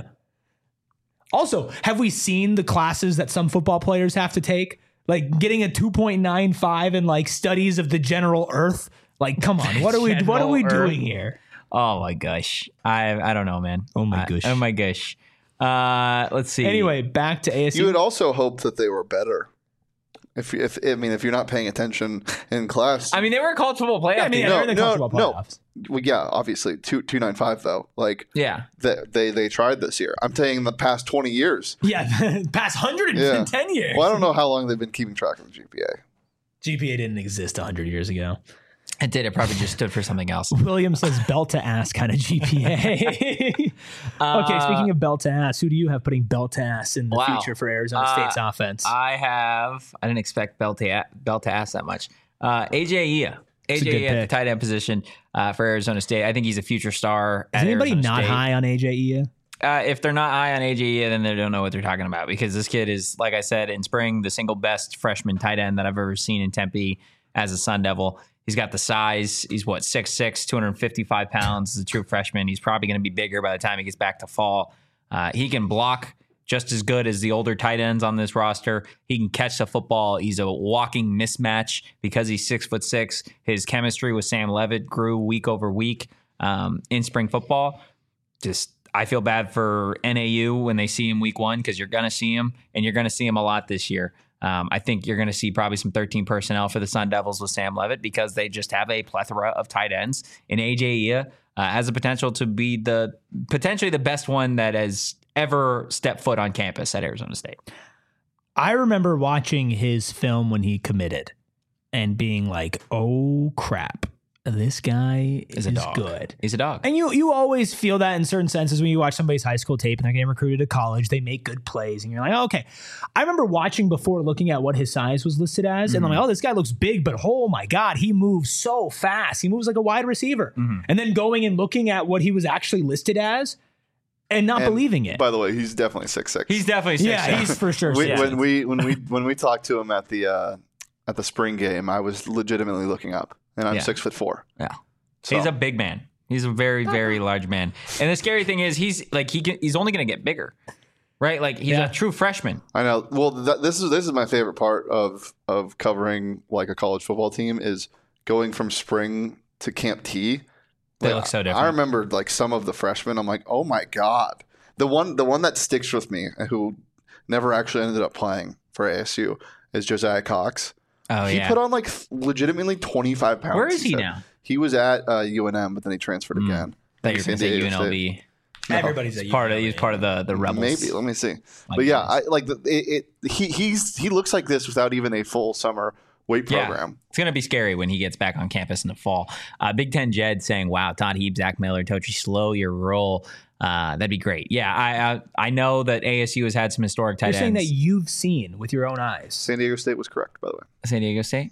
Also, have we seen the classes that some football players have to take? Like getting a 2.95 in like studies of the general earth. Like, come on, what are we General doing Earth. here? Oh my gosh. I don't know, man. Oh my gosh. Oh my gosh. Let's see. Anyway, back to ASU. you would also hope that they were better. If you're not paying attention in class. I mean, they were a college football playoff. Yeah, I mean, team. they're in the college football playoffs. Well, yeah, obviously 2.95 though. Like Yeah. they tried this year. I'm saying the past 20 years. Yeah, past 110 years. Well, I don't know how long they've been keeping track of the GPA. GPA didn't exist 100 years ago. It did. It probably just stood for something else. William says belt to ass kind of GPA. Okay, speaking of belt to ass, who do you have putting belt to ass in the Wow. future for Arizona State's offense? I didn't expect Bell to ask that much. AJ Ia. a good AJ Ia at the pick. tight end position for Arizona State. I think he's a future star. Is at anybody Arizona not State. high on AJ Ia? If they're not high on AJ Ia, then they don't know what they're talking about because this kid is, like I said, in spring, the single best freshman tight end that I've ever seen in Tempe as a Sun Devil. He's got the size. He's 6'6", 255 pounds. He's a true freshman. He's probably going to be bigger by the time he gets back to fall. He can block just as good as the older tight ends on this roster. He can catch the football. He's a walking mismatch because he's 6'6". His chemistry with Sam Levitt grew week over week in spring football. I feel bad for NAU when they see him week one because you're going to see him, and you're going to see him a lot this year. I think you're going to see probably some 13 personnel for the Sun Devils with Sam Levitt because they just have a plethora of tight ends. And AJ Ia has the potential to be potentially the best one that has ever stepped foot on campus at Arizona State. I remember watching his film when he committed and being like, oh, crap. This guy is a dog. good. He's a dog. And you always feel that in certain senses when you watch somebody's high school tape and they're getting recruited to college, they make good plays and you're like, oh, okay. I remember watching before looking at what his size was listed as and I'm like, oh, this guy looks big, but oh my God, he moves so fast. He moves like a wide receiver. And then going and looking at what he was actually listed as and not believing it. By the way, he's definitely 6'6". He's definitely 6'6". Yeah, he's for sure. When we talked to him at the spring game, I was legitimately looking up, and I'm 6'4". Yeah. So. He's a big man. He's a very, very large man. And the scary thing is he's only going to get bigger, right? Like he's a true freshman. I know. Well, this is my favorite part of covering like a college football team is going from spring to Camp T. They look so different. I remember like some of the freshmen. I'm like, oh my God. The one that sticks with me, who never actually ended up playing for ASU, is Josiah Cox. Oh, he put on like legitimately 25 pounds. Where is he now? He was at UNM, but then he transferred again. I thought you were going to say San Diego UNLV. State. Everybody's He's part of the Rebels. Maybe. Let me see. But yeah, I like he looks like this without even a full summer weight program. It's going to be scary when he gets back on campus in the fall. Big Ten Jed saying, wow, Todd Heap, Zach Miller, Tochi, slow your roll. That'd be great. Yeah, I know that ASU has had some historic tight ends. You're saying that you've seen with your own eyes. San Diego State was correct, by the way. San Diego State?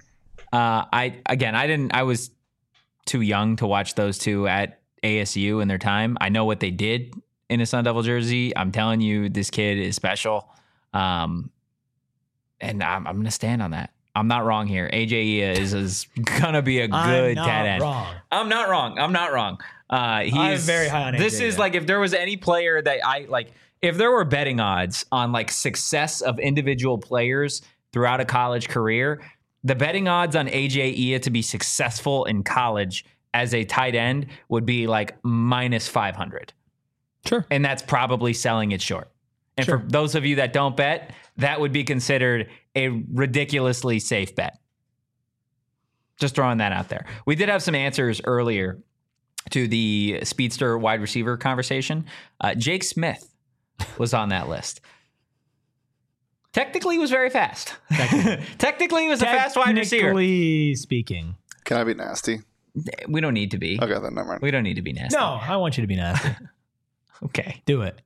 I was too young to watch those two at ASU in their time. I know what they did in a Sun Devil jersey. I'm telling you, this kid is special. And I'm going to stand on that. I'm not wrong here. AJ is going to be a good tight end. I'm not wrong. I'm very high on AJ. This is like, if there was any player that if there were betting odds on like success of individual players throughout a college career, the betting odds on AJ Ia to be successful in college as a tight end would be like minus 500. Sure. And that's probably selling it short. And for those of you that don't bet, that would be considered a ridiculously safe bet. Just throwing that out there. We did have some answers earlier to the speedster wide receiver conversation. Jake Smith was on that list. Technically, he was very fast. Technically, he was a fast wide receiver. Technically speaking. Can I be nasty? We don't need to be. Okay, then never mind. We don't need to be nasty. No, I want you to be nasty. Okay. Do it.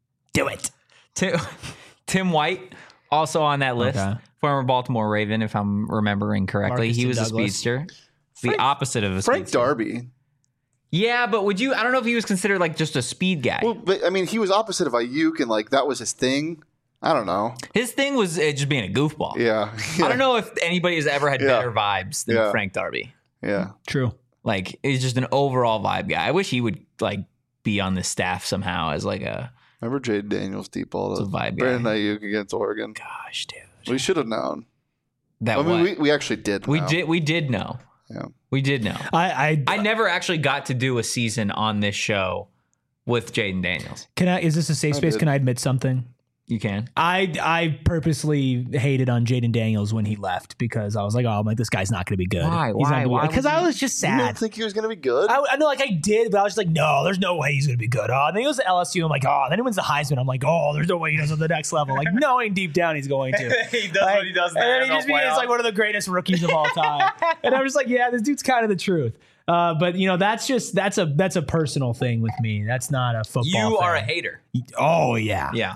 Tim White, also on that list. Okay. Former Baltimore Raven, if I'm remembering correctly. Marcus he was Douglas. A speedster. The opposite of a Frank speedster. Darby. Yeah, but I don't know if he was considered like just a speed guy. Well, but I mean, he was opposite of Ayuk, and like that was his thing. I don't know. His thing was just being a goofball. Yeah. I don't know if anybody has ever had better vibes than Frank Darby. Yeah. True. Like, he's just an overall vibe guy. I wish he would like be on the staff somehow as like a... Remember Jade Daniels deep ball? It's a vibe Brandon guy. Ayuk against Oregon. Gosh, dude. We should have known. That we actually did know. We did know. Yeah. We did know. I never actually got to do a season on this show with Jaden Daniels. Is this a safe space? Can I admit something? You can. I purposely hated on Jaden Daniels when he left because I was like, this guy's not going to be good. Why? Because I was just sad. You didn't think he was going to be good? I know, like I did, but I was just like, no, there's no way he's going to be good. And then he goes to LSU. I'm like, then he wins the Heisman. I'm like, there's no way he does on the next level. Like, knowing deep down he's going to. He does what he does. And then he just becomes like one of the greatest rookies of all time. And I'm just like, yeah, this dude's kind of the truth. But that's a personal thing with me. That's not a football. You thing. are a hater. Oh yeah, yeah.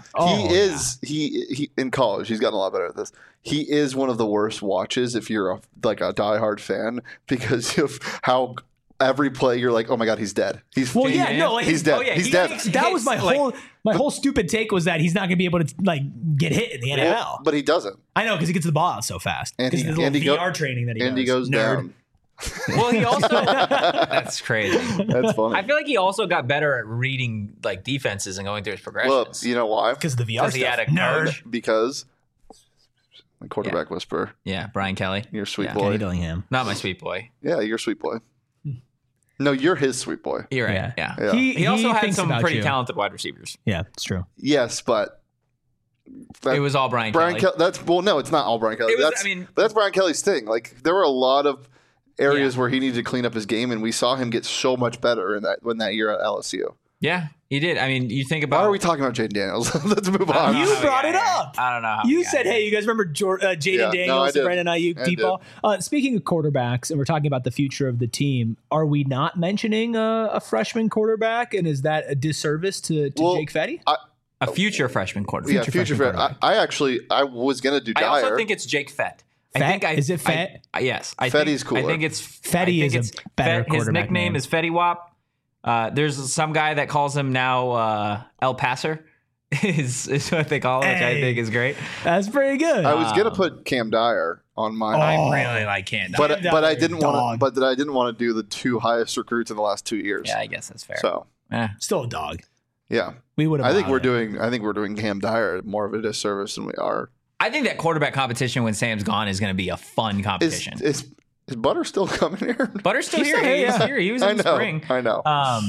He in college. He's gotten a lot better at this. He is one of the worst watches if you're a diehard fan because of how every play you're like, oh my god, he's dead. He's dead. He's dead. That was my whole stupid take was that he's not going to be able to like get hit in the NFL. But he doesn't. I know because he gets the ball out so fast. Because of the little VR training that he does. And he goes down. Well, he also that's crazy. That's funny. I feel like he also got better at reading like defenses and going through his progressions. Well, you know why? Because of the VR stuff. He had a nerd. Because the quarterback whisperer. Yeah, Brian Kelly. You're sweet boy. Kenny Dillingham. Not my sweet boy. Yeah, you're sweet boy. No, you're his sweet boy. You're right. Yeah. He also had thinks some about pretty you. talented wide receivers. Yeah, it's true. Yes, but it was all Brian Kelly. No, it's not all Brian Kelly. That's Brian Kelly's thing. Like there were a lot of areas where he needed to clean up his game, and we saw him get so much better in that year at LSU. Yeah, he did. I mean, you think about... Why are we talking about Jaden Daniels? Let's move on. You brought it up. I don't know how you said, hey, you guys remember Jaden Daniels and Brandon Ayuk deep ball? Speaking of quarterbacks, and we're talking about the future of the team, are we not mentioning a freshman quarterback? And is that a disservice to Jake Fetty? A future freshman quarterback. Yeah, future freshman. I was going to do Dyer. I also think it's Jake Fett. Is it Fett? Yes. Fetty's cooler. I think it's Fetty is a better quarterback. His nickname is Fetty Wap. There's some guy that calls him now El Passer. is what they call him, which I think is great. That's pretty good. I was gonna put Cam Dyer on my. I really like Cam Dyer, but I didn't want to. But I didn't want to do the two highest recruits in the last 2 years. Yeah, I guess that's fair. So still a dog. Yeah, we would have. I think we're doing Cam Dyer more of a disservice than we are. I think that quarterback competition when Sam's gone is going to be a fun competition. Is Butter still coming here? Butter's still here. He's here. He was in the spring. I know.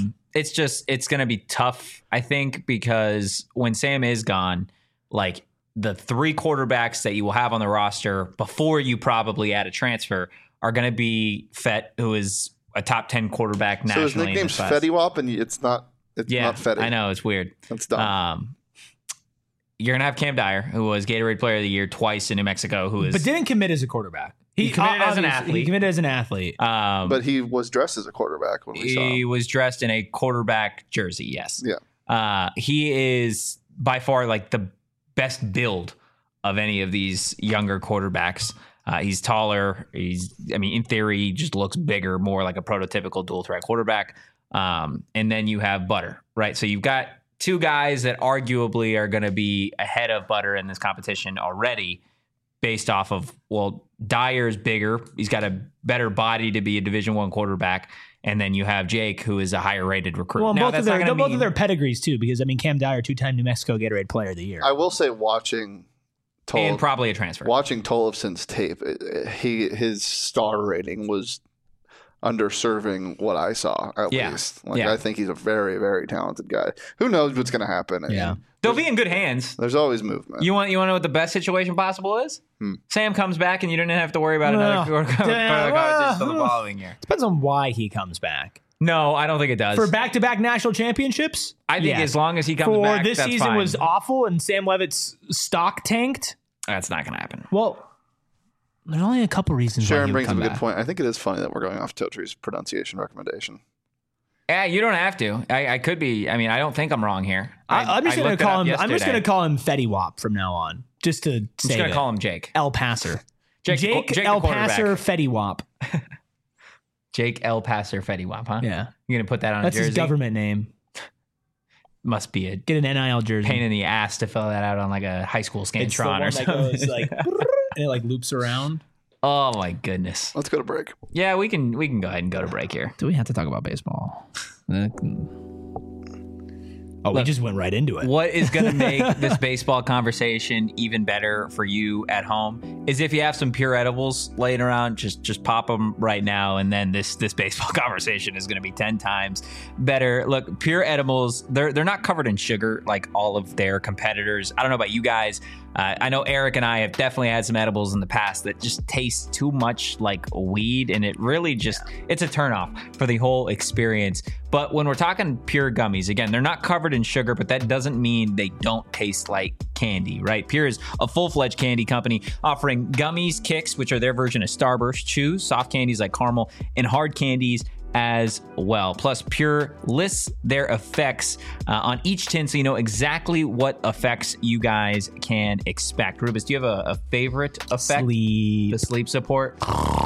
It's going to be tough, I think, because when Sam is gone, like the three quarterbacks that you will have on the roster before you probably add a transfer are going to be Fett, who is a top 10 quarterback nationally. So his nickname's Fetty Wap, and it's not Fetty. I know. It's weird. That's dumb. You're going to have Cam Dyer, who was Gatorade Player of the Year twice in New Mexico, but didn't commit as a quarterback. He committed as an athlete. He committed as an athlete. But he was dressed as a quarterback when we saw him. He was dressed in a quarterback jersey, yes. Yeah. He is by far like the best build of any of these younger quarterbacks. He's taller. In theory, he just looks bigger, more like a prototypical dual threat quarterback. And then you have Butter, right? So you've got two guys that arguably are going to be ahead of Butter in this competition already based off of, well, Dyer's bigger. He's got a better body to be a Division I quarterback. And then you have Jake, who is a higher rated recruit. Well, both of their pedigrees, too, because, Cam Dyer, 2-time New Mexico Gatorade Player of the Year. I will say watching and probably a transfer. Watching Tollefson's tape, his star rating was underserving what I saw, at least. I think he's a very, very talented guy. Who knows what's going to happen? They'll be in good hands. There's always movement. You want to know what the best situation possible is? Sam comes back and you don't have to worry about another competition until the following year. Depends on why he comes back. No, I don't think it does. For back-to-back national championships? I think as long as he comes back, for this that's season fine. Was awful and Sam Levitt's stock tanked? That's not going to happen. Well, there's only a couple reasons Sharon why brings up a good point. I think it is funny that we're going off Totre's pronunciation recommendation. Yeah, you don't have to. I could be. I don't think I'm wrong here. I'm just going to call him. I'm just going to call him Fetty Wap from now on, just to say. I'm just going to call him Jake. El Passer. Jake El Passer Fetty Wap. Jake El Passer Fetty Wap, huh? Yeah. You're going to put that on That's a jersey? His government name. Must be a get an NIL jersey. Pain in the ass to fill that out on like a high school Scantron or something. Goes like, and it like loops around. Oh my goodness. Let's go to break. Yeah, we can go ahead and go to break here. Do we have to talk about baseball? We just went right into it. What is going to make this baseball conversation even better for you at home is if you have some Pure edibles laying around, just pop them right now, and then this baseball conversation is going to be 10 times better. Look, Pure edibles, they're not covered in sugar like all of their competitors. I don't know about you guys. I know Eric and I have definitely had some edibles in the past that just taste too much like weed, and it really it's a turnoff for the whole experience. But when we're talking Pure gummies, again, they're not covered in sugar, but that doesn't mean they don't taste like candy, right? Pure is a full-fledged candy company offering gummies, kicks, which are their version of Starburst, chews, soft candies like caramel, and hard candies as well. Plus, Pure lists their effects on each tin so you know exactly what effects you guys can expect. Rubus, do you have a favorite effect? The sleep support.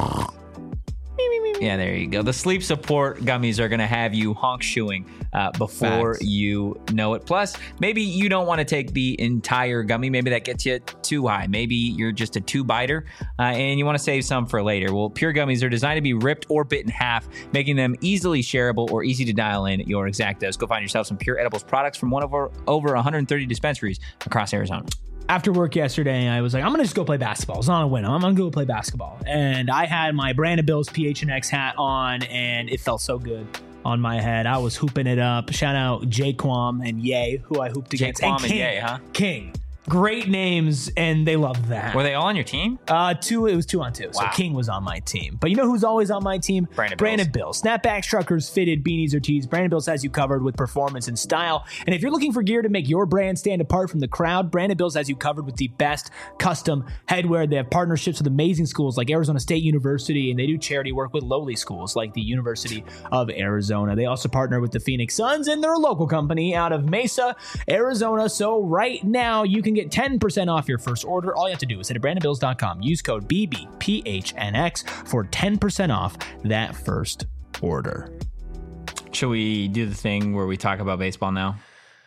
Yeah, there you go. The sleep support gummies are going to have you honk shoeing before you know it. Plus, maybe you don't want to take the entire gummy. Maybe that gets you too high. Maybe you're just a two-biter and you want to save some for later. Well, Pure gummies are designed to be ripped or bit in half, making them easily shareable or easy to dial in your exact dose. Go find yourself some Pure Edibles products from one of our over 130 dispensaries across Arizona. After work yesterday, I was like, I'm going to just go play basketball. It's not a win. I'm going to go play basketball. And I had my Brandon Bills PHNX hat on, and it felt so good on my head. I was hooping it up. Shout out Jaquam and Ye, who I hooped against. Jaquam and Ye, huh? King. Great names, and they loved that. Were they all on your team? It was 2-on-2. So King was on my team. But you know who's always on my team? Brandon Bills. Snapbacks, truckers, fitted, beanies, or tees. Brandon Bills has you covered with performance and style. And if you're looking for gear to make your brand stand apart from the crowd, Brandon Bills has you covered with the best custom headwear. They have partnerships with amazing schools like Arizona State University, and they do charity work with lowly schools like the University of Arizona. They also partner with the Phoenix Suns, and they're a local company out of Mesa, Arizona. So right now, you can get 10% off your first order. All you have to do is head to brandonbills.com. Use code BBPHNX for 10% off that first order. Should we do the thing where we talk about baseball now?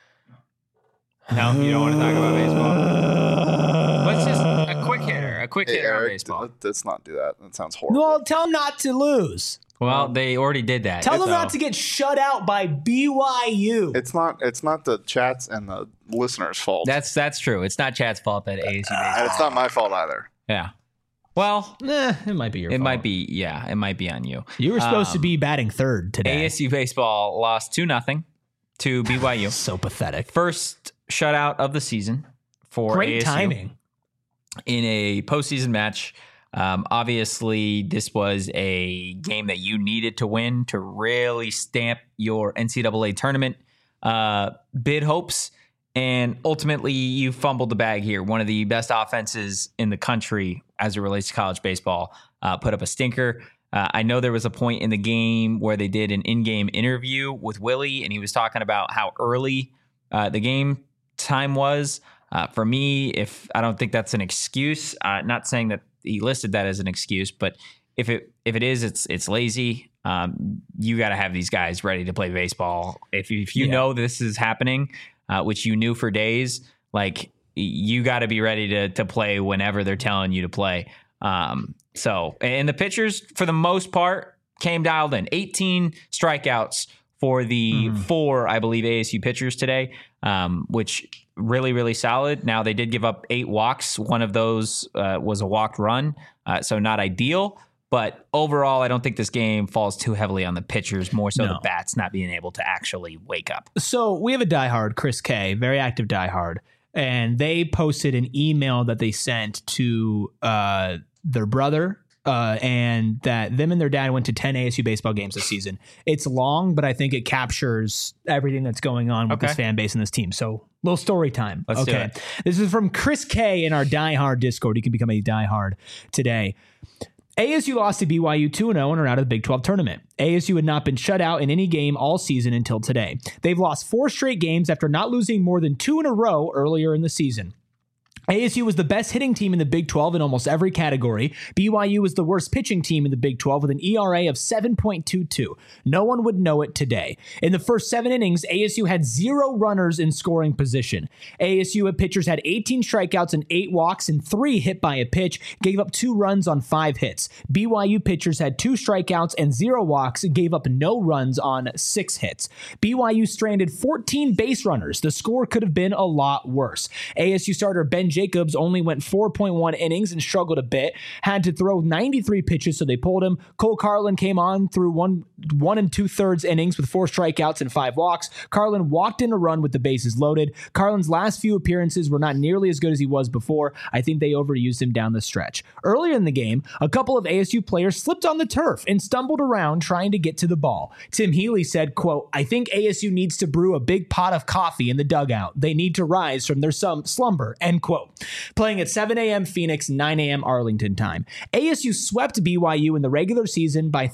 No, you don't want to talk about baseball? Let's just a quick hitter on baseball. Let's not do that. That sounds horrible. Well, tell them not to lose. Well, they already did that. Tell them not to get shut out by BYU. It's not the chats and the listeners' fault. That's true. It's not Chat's fault that ASU baseball. It's not my fault either. Yeah. Well, it might be your fault. It might be, it might be on you. You were supposed to be batting third today. ASU baseball lost 2-0 to BYU. So pathetic. First shutout of the season for Great ASU. Timing. In a postseason match. Obviously, this was a game that you needed to win to really stamp your NCAA tournament bid hopes. And ultimately, you fumbled the bag here. One of the best offenses in the country as it relates to college baseball, put up a stinker. I know there was a point in the game where they did an in-game interview with Willie, and he was talking about how early the game time was. For me, I don't think that's an excuse. Not saying that he listed that as an excuse, but if it is, it's lazy. You got to have these guys ready to play baseball. If you know this is happening, which you knew for days, like you got to be ready to play whenever they're telling you to play. So, and the pitchers, for the most part, came dialed in. 18 strikeouts for the 4, I believe, ASU pitchers today, which really, really solid. Now, they did give up 8 walks. One of those was a walked run, so not ideal. But overall, I don't think this game falls too heavily on the pitchers, more so the bats not being able to actually wake up. So we have a diehard, Chris K, very active diehard, and they posted an email that they sent to their brother, and that them and their dad went to 10 ASU baseball games this season. It's long, but I think it captures everything that's going on with this fan base and this team. So little story time. Let's do it. This is from Chris K in our diehard Discord. You can become a diehard today. ASU lost to BYU 2-0 and are out of the Big 12 tournament. ASU had not been shut out in any game all season until today. They've lost 4 straight games after not losing more than 2 in a row earlier in the season. ASU was the best hitting team in the Big 12 in almost every category. BYU was the worst pitching team in the Big 12 with an ERA of 7.22. No one would know it today. In the first 7 innings, ASU had 0 runners in scoring position. ASU pitchers had 18 strikeouts and 8 walks and 3 hit by a pitch, gave up 2 runs on 5 hits. BYU pitchers had 2 strikeouts and 0 walks, gave up no runs on 6 hits. BYU stranded 14 base runners. The score could have been a lot worse. ASU starter Ben Jacobs only went 4.1 innings and struggled a bit, had to throw 93 pitches, so they pulled him. Cole Carlin came on through 1 2/3 innings with 4 strikeouts and 5 walks. Carlin walked in a run with the bases loaded. Carlin's last few appearances were not nearly as good as he was before. I think they overused him down the stretch. Earlier in the game, a couple of ASU players slipped on the turf and stumbled around trying to get to the ball. Tim Healy said, quote, "I think ASU needs to brew a big pot of coffee in the dugout. They need to rise from their slumber," end quote. Playing at 7 a.m. Phoenix, 9 a.m. Arlington time. ASU swept BYU in the regular season by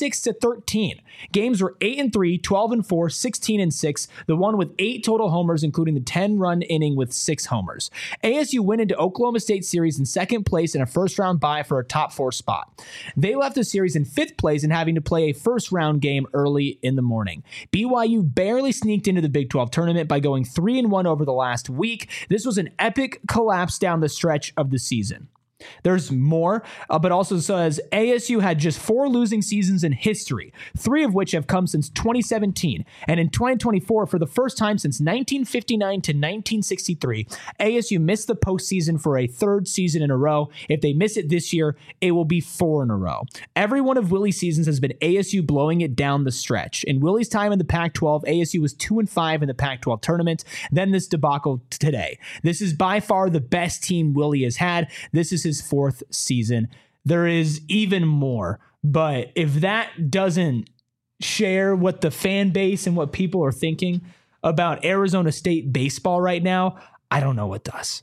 36-13. Games were 8-3, 12-4, 16-6, the one with 8 total homers, including the 10-run inning with 6 homers. ASU went into Oklahoma State series in second place in a first-round bye for a top 4 spot. They left the series in 5th place and having to play a first-round game early in the morning. BYU barely sneaked into the Big 12 tournament by going 3-1 over the last week. This was an epic collapse down the stretch of the season. There's more, but also says ASU had just 4 losing seasons in history, 3 of which have come since 2017. And in 2024, for the first time since 1959 to 1963, ASU missed the postseason for a 3rd season in a row. If they miss it this year, it will be 4 in a row. Every one of Willie's seasons has been ASU blowing it down the stretch. In Willie's time in the Pac-12, ASU was 2-5 in the Pac-12 tournament. Then this debacle today. This is by far the best team Willie has had. This is his 4th season. There is even more, but if that doesn't share what the fan base and what people are thinking about Arizona State baseball right now, I don't know what does.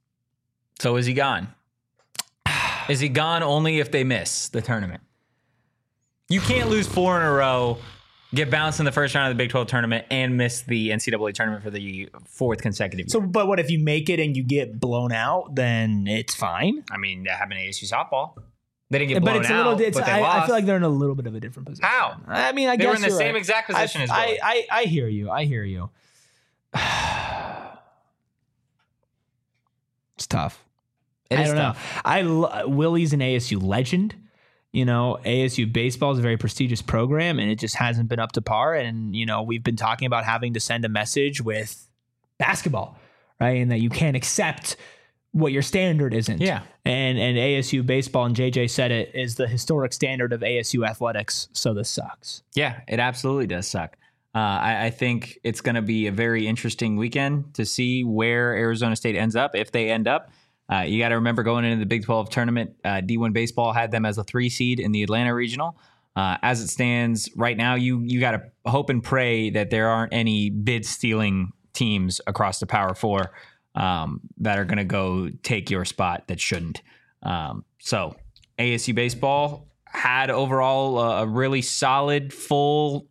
So is he gone? Is he gone only if they miss the tournament? You can't lose 4 in a row, get bounced in the first round of the Big 12 tournament, and miss the NCAA tournament for the 4th consecutive year. So, but what if you make it and you get blown out? Then it's fine. I mean, that happened to ASU softball. They didn't get blown but out, but they lost. I feel like they're in a little bit of a different position. How? I mean, I they guess were in the same right. exact position as Willie. I hear you. I hear you. It's tough. It is tough. Willie's an ASU legend. You know, ASU baseball is a very prestigious program, and it just hasn't been up to par. And, you know, we've been talking about having to send a message with basketball, right? And that you can't accept what your standard isn't. Yeah. And ASU baseball, and JJ said it, is the historic standard of ASU athletics. So this sucks. Yeah, it absolutely does suck. I think it's going to be a very interesting weekend to see where Arizona State ends up, if they end up. You got to remember, going into the Big 12 tournament, D1 Baseball had them as a 3 seed in the Atlanta Regional. As it stands right now, you got to hope and pray that there aren't any bid-stealing teams across the Power 4 that are going to go take your spot that shouldn't. So ASU baseball had overall a really solid full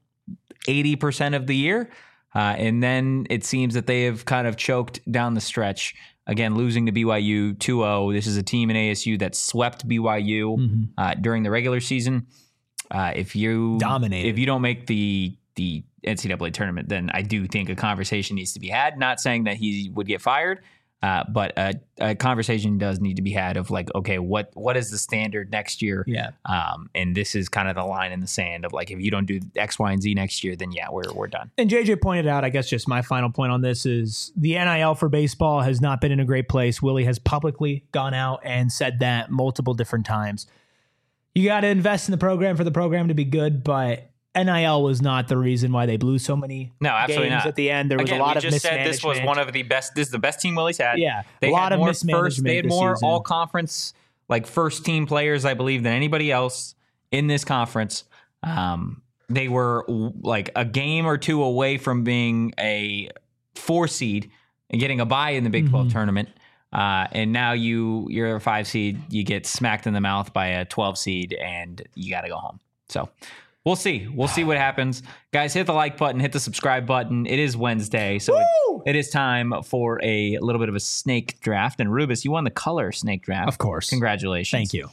80% of the year. And then it seems that they have kind of choked down the stretch. Again, losing to BYU 2-0. This is a team in ASU that swept BYU during the regular season. If you don't make the NCAA tournament, then I do think a conversation needs to be had. Not saying that he would get fired, but a conversation does need to be had of like, okay, what is the standard next year? Yeah. And this is kind of the line in the sand of like, if you don't do X, Y, and Z next year, then yeah, we're done. And JJ pointed out, I guess just my final point on this is the NIL for baseball has not been in a great place. Willie has publicly gone out and said that multiple different times. You got to invest in the program for the program to be good, but NIL was not the reason why they blew so many games at the end. There was a lot of mismanagement. This was one of the best. This is the best team Willie's had. Yeah, they a lot of more mismanagement. They had more all conference, like first team players, I believe, than anybody else in this conference. They were like a game or two away from being a 4 seed and getting a bye in the Big 12 tournament. And now you're a 5 seed. You get smacked in the mouth by a 12 seed, and you got to go home. So. We'll see. We'll see what happens. Guys, hit the like button, hit the subscribe button. It is Wednesday, so it is time for a little bit of a snake draft. And Rubus, you won the color snake draft. Of course. Congratulations. Thank you.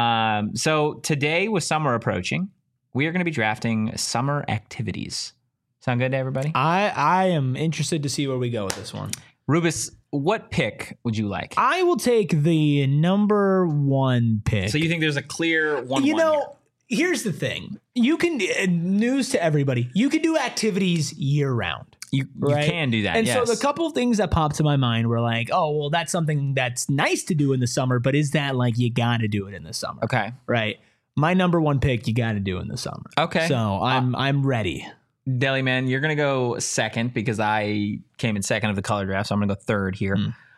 So today, with summer approaching, we are going to be drafting summer activities. Sound good to everybody? I am interested to see where we go with this one. Rubus, what pick would you like? I will take the number 1 pick. So you think there's a clear 1-1 here? Here's the thing. You can, news to everybody, you can do activities year round. You can do that. And yes. so the couple of things that popped to my mind were like, oh, well, that's something that's nice to do in the summer, but is that like you got to do it in the summer? Okay. Right. My number 1 pick, you got to do in the summer. Okay. So I'm ready. Deli Man, you're going to go second because I came in second of the color draft, so I'm going to go third here.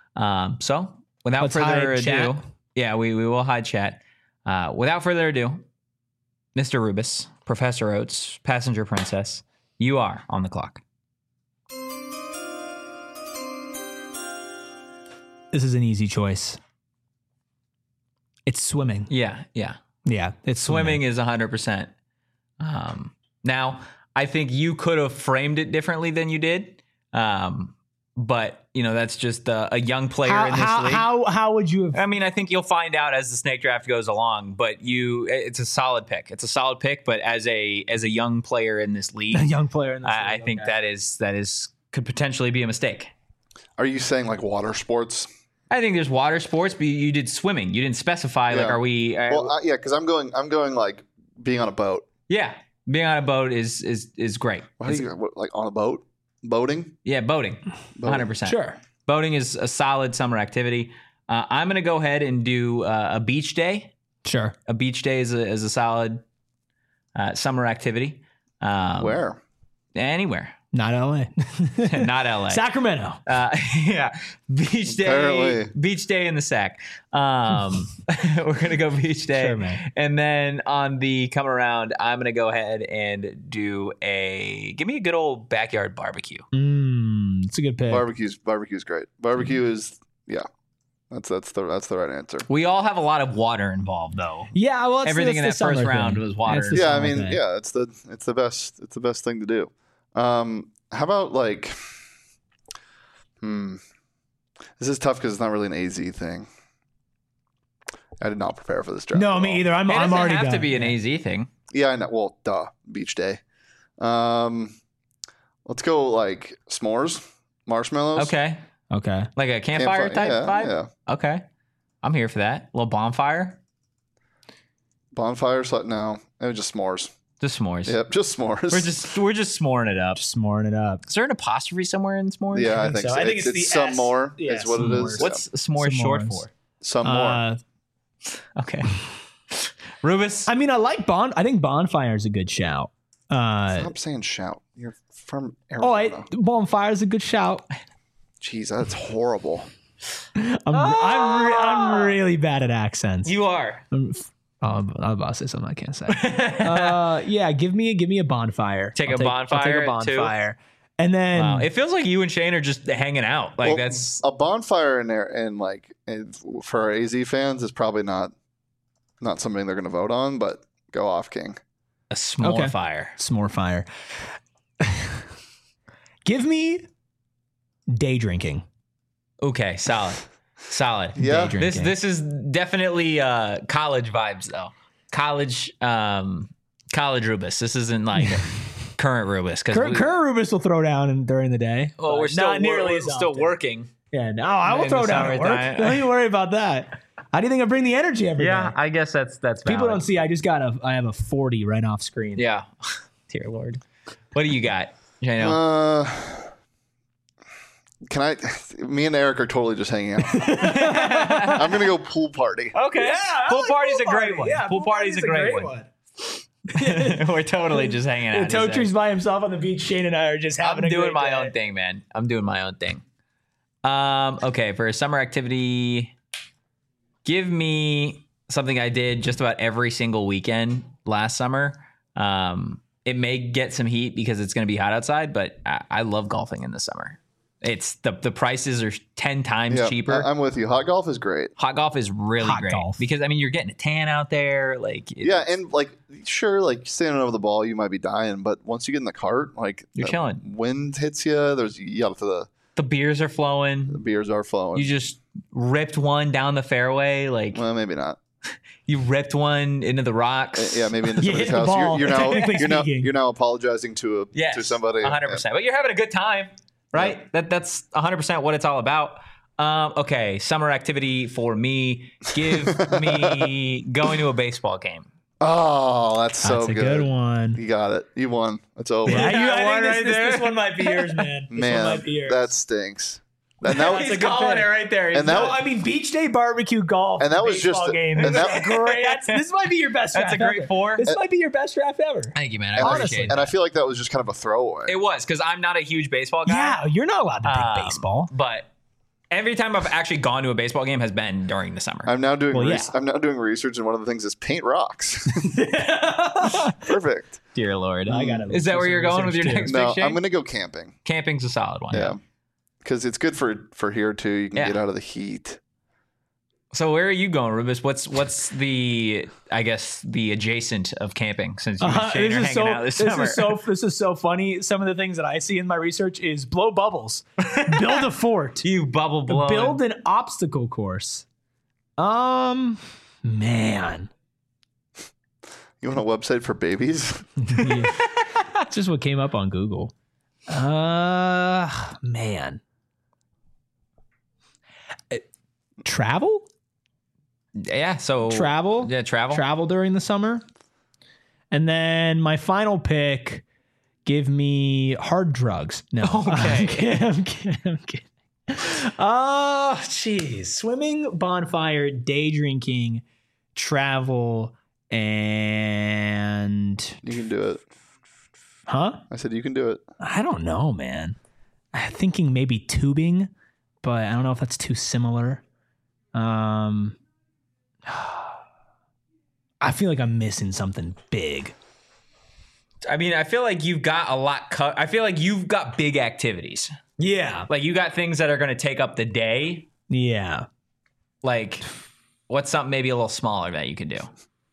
So without further ado, chat. Yeah, we will hide chat. Without further ado, Mr. Rubus, Professor Oates, Passenger Princess, you are on the clock. This is an easy choice. It's swimming. Yeah. It's Swimming is 100%. Now, I think you could have framed it differently than you did. But, that's just a young player in this league. How would you have? I mean, I think you'll find out as the snake draft goes along, but it's a solid pick. It's a solid pick, but as a young player in this league, I think that could potentially be a mistake. Are you saying like water sports? I think there's water sports, but you did swimming. You didn't specify. Yeah. Like, are we? Because I'm going like being on a boat. Yeah, being on a boat is great. Like on a boat? Boating? Yeah, boating. 100%. Sure. Boating is a solid summer activity. I'm going to go ahead and do a beach day. Sure. A beach day is a solid summer activity. Where? Anywhere. Not LA. Not LA. Sacramento. Yeah. Beach day. Apparently. Beach day in the sack. We're going to go beach day. Sure, man. And then on the come around, I'm going to go ahead and give me a good old backyard barbecue. It's a good pick. Barbecue's great. Barbecue is, that's the right answer. We all have a lot of water involved though. Yeah. Well, everything in that first round was water. It's the best thing to do. How about like, this is tough because it's not really an AZ thing. I did not prepare for this draft. No, me either. I'm already have done. to be an AZ thing. Yeah, I know. Well, beach day. Let's go like s'mores, marshmallows. Okay. Like a campfire type vibe? Yeah. Okay. I'm here for that. A little bonfire. Bonfire? No, it was just s'mores. Just s'mores. Yep, just s'mores. We're just s'moring it up. Just s'moring it up. Is there an apostrophe somewhere in s'mores? Yeah, I think so. I think it's some S. more. Yeah, is what s'mores. it is. What's s'mores short for? Some more. Okay. Rubus? I mean, I think bonfire is a good shout. Stop saying shout. You're from Arizona. Bonfire is a good shout. Jeez, that's horrible. I'm really bad at accents. You are. I'm about to say something I can't say. Yeah, give me a bonfire. I'll take a bonfire. And then Wow. It feels like you and Shane are just hanging out. Like that's a bonfire in there, and for our AZ fans is probably not something they're going to vote on. But go off, King. a s'more fire. S'more fire. Give me day drinking. Okay, solid. Yeah. Day This drinking. is definitely college vibes though. College Rubus. This isn't like current Rubus because Current Rubus will throw down during the day. well, we're but still not nearly we're as still often. working. Yeah, no, I will In throw the down at work. summertime. Don't you worry about that. How do you think I bring the energy every day? I guess that's People valid. don't see. I have a 40 right off screen. Yeah. Dear Lord. What do you got? Shano? Can I? Me and Eric are totally just hanging out. I'm going to go pool party. Okay. Pool party's a great one. Yeah, pool party's a great one. We're totally just hanging out. Totree's by himself on the beach. Shane and I are just having I'm a doing great my day. own thing, man. I'm doing my own thing. Okay, for a summer activity, give me something I did just about every single weekend last summer. It may get some heat because it's going to be hot outside, but I love golfing in the summer. It's the prices are 10 times cheaper. I'm with you. Hot golf is great. Hot golf is really Hot great golf. because I mean you're getting a tan out there, like And standing over the ball, you might be dying, but once you get in the cart, like You're the chilling. Wind hits you. the beers are flowing. The beers are flowing. You just ripped one down the fairway, like well, maybe not. you ripped one into the rocks. Yeah, maybe into You somebody's hit the house. ball, technically speaking. You're now apologizing to somebody. 100%. But you're having a good time, right? That's 100% what it's all about. Okay, summer activity for me. Give me going to a baseball game. Oh, that's so That's a good. good one. You got it. You won. It's over. Yeah, I I won think right this there. one might be yours, man. This Man, one might be yours. that stinks. And that He's was, calling it right there. And that- No, I mean beach day barbecue golf. And that was baseball just- game. and This that- is great. This might be your best. That's a draft great ever. four. This might be your best draft ever. Thank you, man. I and, appreciate and I that. feel like that was just kind of a throwaway. It was because I'm not a huge baseball guy. Yeah, you're not allowed to pick baseball. But every time I've actually gone to a baseball game has been during the summer. I'm now doing yeah. I'm now doing research, and one of the things is paint rocks. Perfect. Dear Lord. I gotta Is that where you're going with your next No, pick, Shane? I'm going to go camping. Camping's a solid one. Yeah, because it's good for here too. You can Yeah. get out of the heat. So where are you going, Rubus? What's the the adjacent of camping since you and Shane are hanging out this summer? This is so funny. Some of the things that I see in my research is blow bubbles, build a fort, You bubble blow. build an obstacle course. Man, You want a website for babies? it's just what came up on Google. Man, travel. Yeah. So Travel? Yeah, travel. Travel during the summer. And then my final pick, give me hard drugs. No. Okay. I'm kidding. Oh, jeez. Swimming, bonfire, day drinking, travel, and... You can do it. Huh? I said you can do it. I don't know, man. I'm thinking maybe tubing, but I don't know if that's too similar. I feel like I'm missing something big. I mean, I feel like you've got a lot. I feel like you've got big activities. Yeah. Like you got things that are going to take up the day. Yeah. Like, what's something maybe a little smaller that you can do?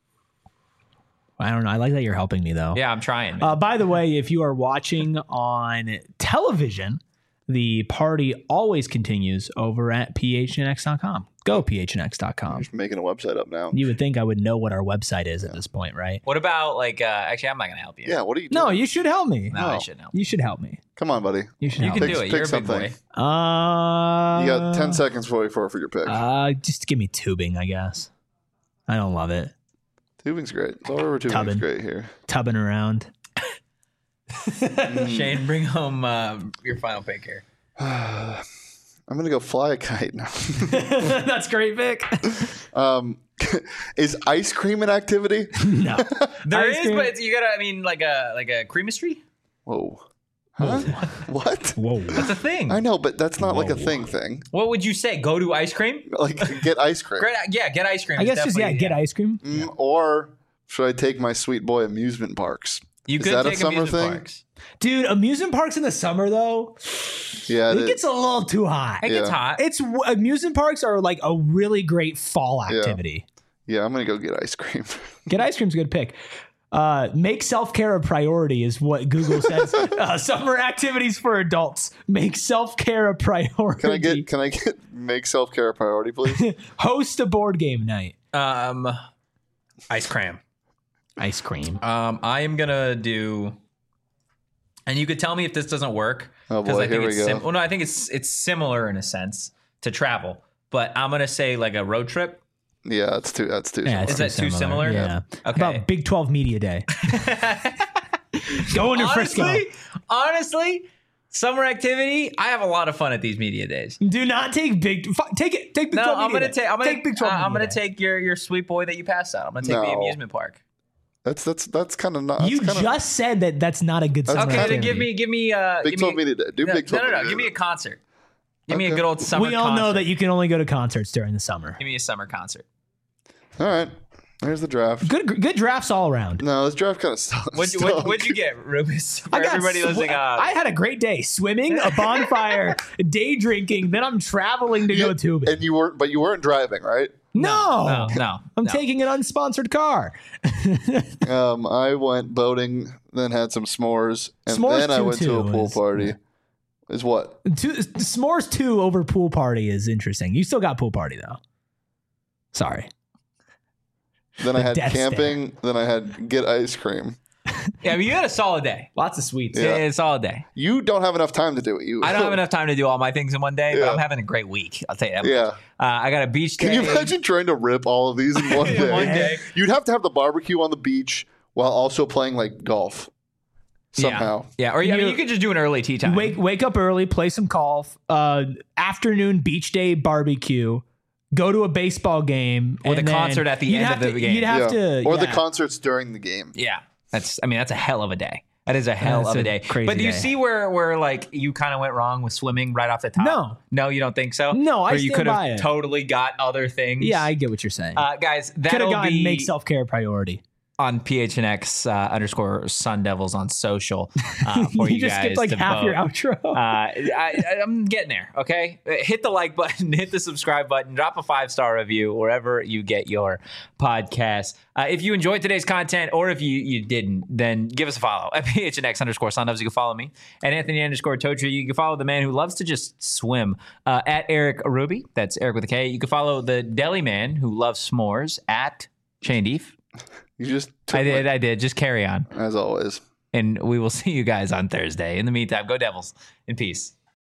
I don't know. I like that you're helping me, though. Yeah, I'm trying. Man. By the way, if you are watching on television, the party always continues over at phnx.com. Go phnx.com. Just making a website up now. You would think I would know what our website is at this point, right? What about like? Actually, I'm not going to help you. Yeah, what are you doing? No, you should help me. No, I shouldn't help. You should help me. Come on, buddy. You should You help can me. do it. You're a big boy. You got 10 seconds for your pick. Just give me tubing, I guess. I don't love it. Tubing's great. It's all over tubing's Tubbing. great here. Tubbing around. Shane, bring home your final pick here. I'm going to go fly a kite now. That's great, Vic. Is ice cream an activity? No. There Ice is, cream- but you gotta. I mean, like a creamistry. Whoa. Huh? What? Whoa. That's a thing. I know, but that's not like a thing. What would you say? Go to ice cream? Like, get ice cream. Great. Yeah, get ice cream. I is guess just, definitely- get ice cream. Or should I take my sweet boy amusement parks You Is could that a take summer amusement thing? parks. Dude, amusement parks in the summer though, Yeah, it gets a little too hot. It gets Yeah. hot. It's amusement parks are like a really great fall activity. yeah. I'm gonna go get ice cream. Get ice cream's a good pick. Make self-care a priority is what Google says. Summer activities for adults. Make self-care a priority. Can I get make self-care a priority, please? Host a board game night. Ice cream. Ice cream. I am gonna do, and you could tell me if this doesn't work. Oh, boy, I think here we it's go. well, no, I think it's similar in a sense to travel, but I'm gonna say like a road trip. Yeah, that's too. Yeah, similar. Is that too similar? Yeah. Okay. About Big 12 Media Day. Going to Frisco. Honestly, summer activity. I have a lot of fun at these media days. Do not take Big 12 No, Media Day. Take Big 12 I'm Media gonna Day. take your sweet boy that you passed out. I'm gonna take the No. amusement park. That's kind of not. You just said that that's not a good summer Okay, activity. then give me Big 12 Media Day. Do Big 12 No. Media Give me Day. a concert. Give me a Okay. good old summer. We all concert. know that you can only go to concerts during the summer. Give me a summer concert. All right. There's the draft. Good drafts all around. No, this draft kind of sucks. What'd you get, Rubens? For everybody listening, I had a great day swimming, a bonfire, day drinking. Then I'm traveling to go tubing. And you weren't driving, right? No, no. I'm taking an unsponsored car. I went boating, then had some s'mores, and S'mores then I went to a 2-2 pool is- party. Is what? S'mores 2 over pool party is interesting. You still got pool party though. Sorry. Then I had death camping. Then I had get ice cream. Yeah, but you had a solid day. Lots of sweets. Yeah. Yeah, a solid day. You don't have enough time to do it. I don't have enough time to do all my things in one day, but Yeah. I'm having a great week. I'll tell you that. Yeah. much. I got a beach day. Can you imagine trying to rip all of these in one day? one day. You'd have to have the barbecue on the beach while also playing like golf somehow. Yeah, or you could just do an early tea time. Wake up early, play some golf. Afternoon beach day barbecue. Go to a baseball game With and a then concert at the you'd end have of the game. You'd have to, Or the yeah. concerts during the game. Yeah, that's a hell of a day. That is a hell That's of a a day. crazy But do you day. see where like you kind of went wrong with swimming right off the top? No, you don't think so? No, I Where you stand could by have it. totally got other things. Yeah, I get what you're saying. Guys, Could have that'll gotten be make self care a priority. on PHNX _Sun Devils on social for You you just guys skipped like to half vote. your outro. I'm getting there. Okay, hit the like button, hit the subscribe button, drop a 5-star review wherever you get your podcast. If you enjoyed today's content, or if you didn't, then give us a follow at PHNX _Sun Devils. You can follow me at Anthony _Totri. You can follow the man who loves to just swim at Eric Ruby. That's Eric with a K. You can follow the deli man who loves s'mores at Shane Deef. You just took I did. Just carry on. as always. And we will see you guys on Thursday. In the meantime, go Devils in peace.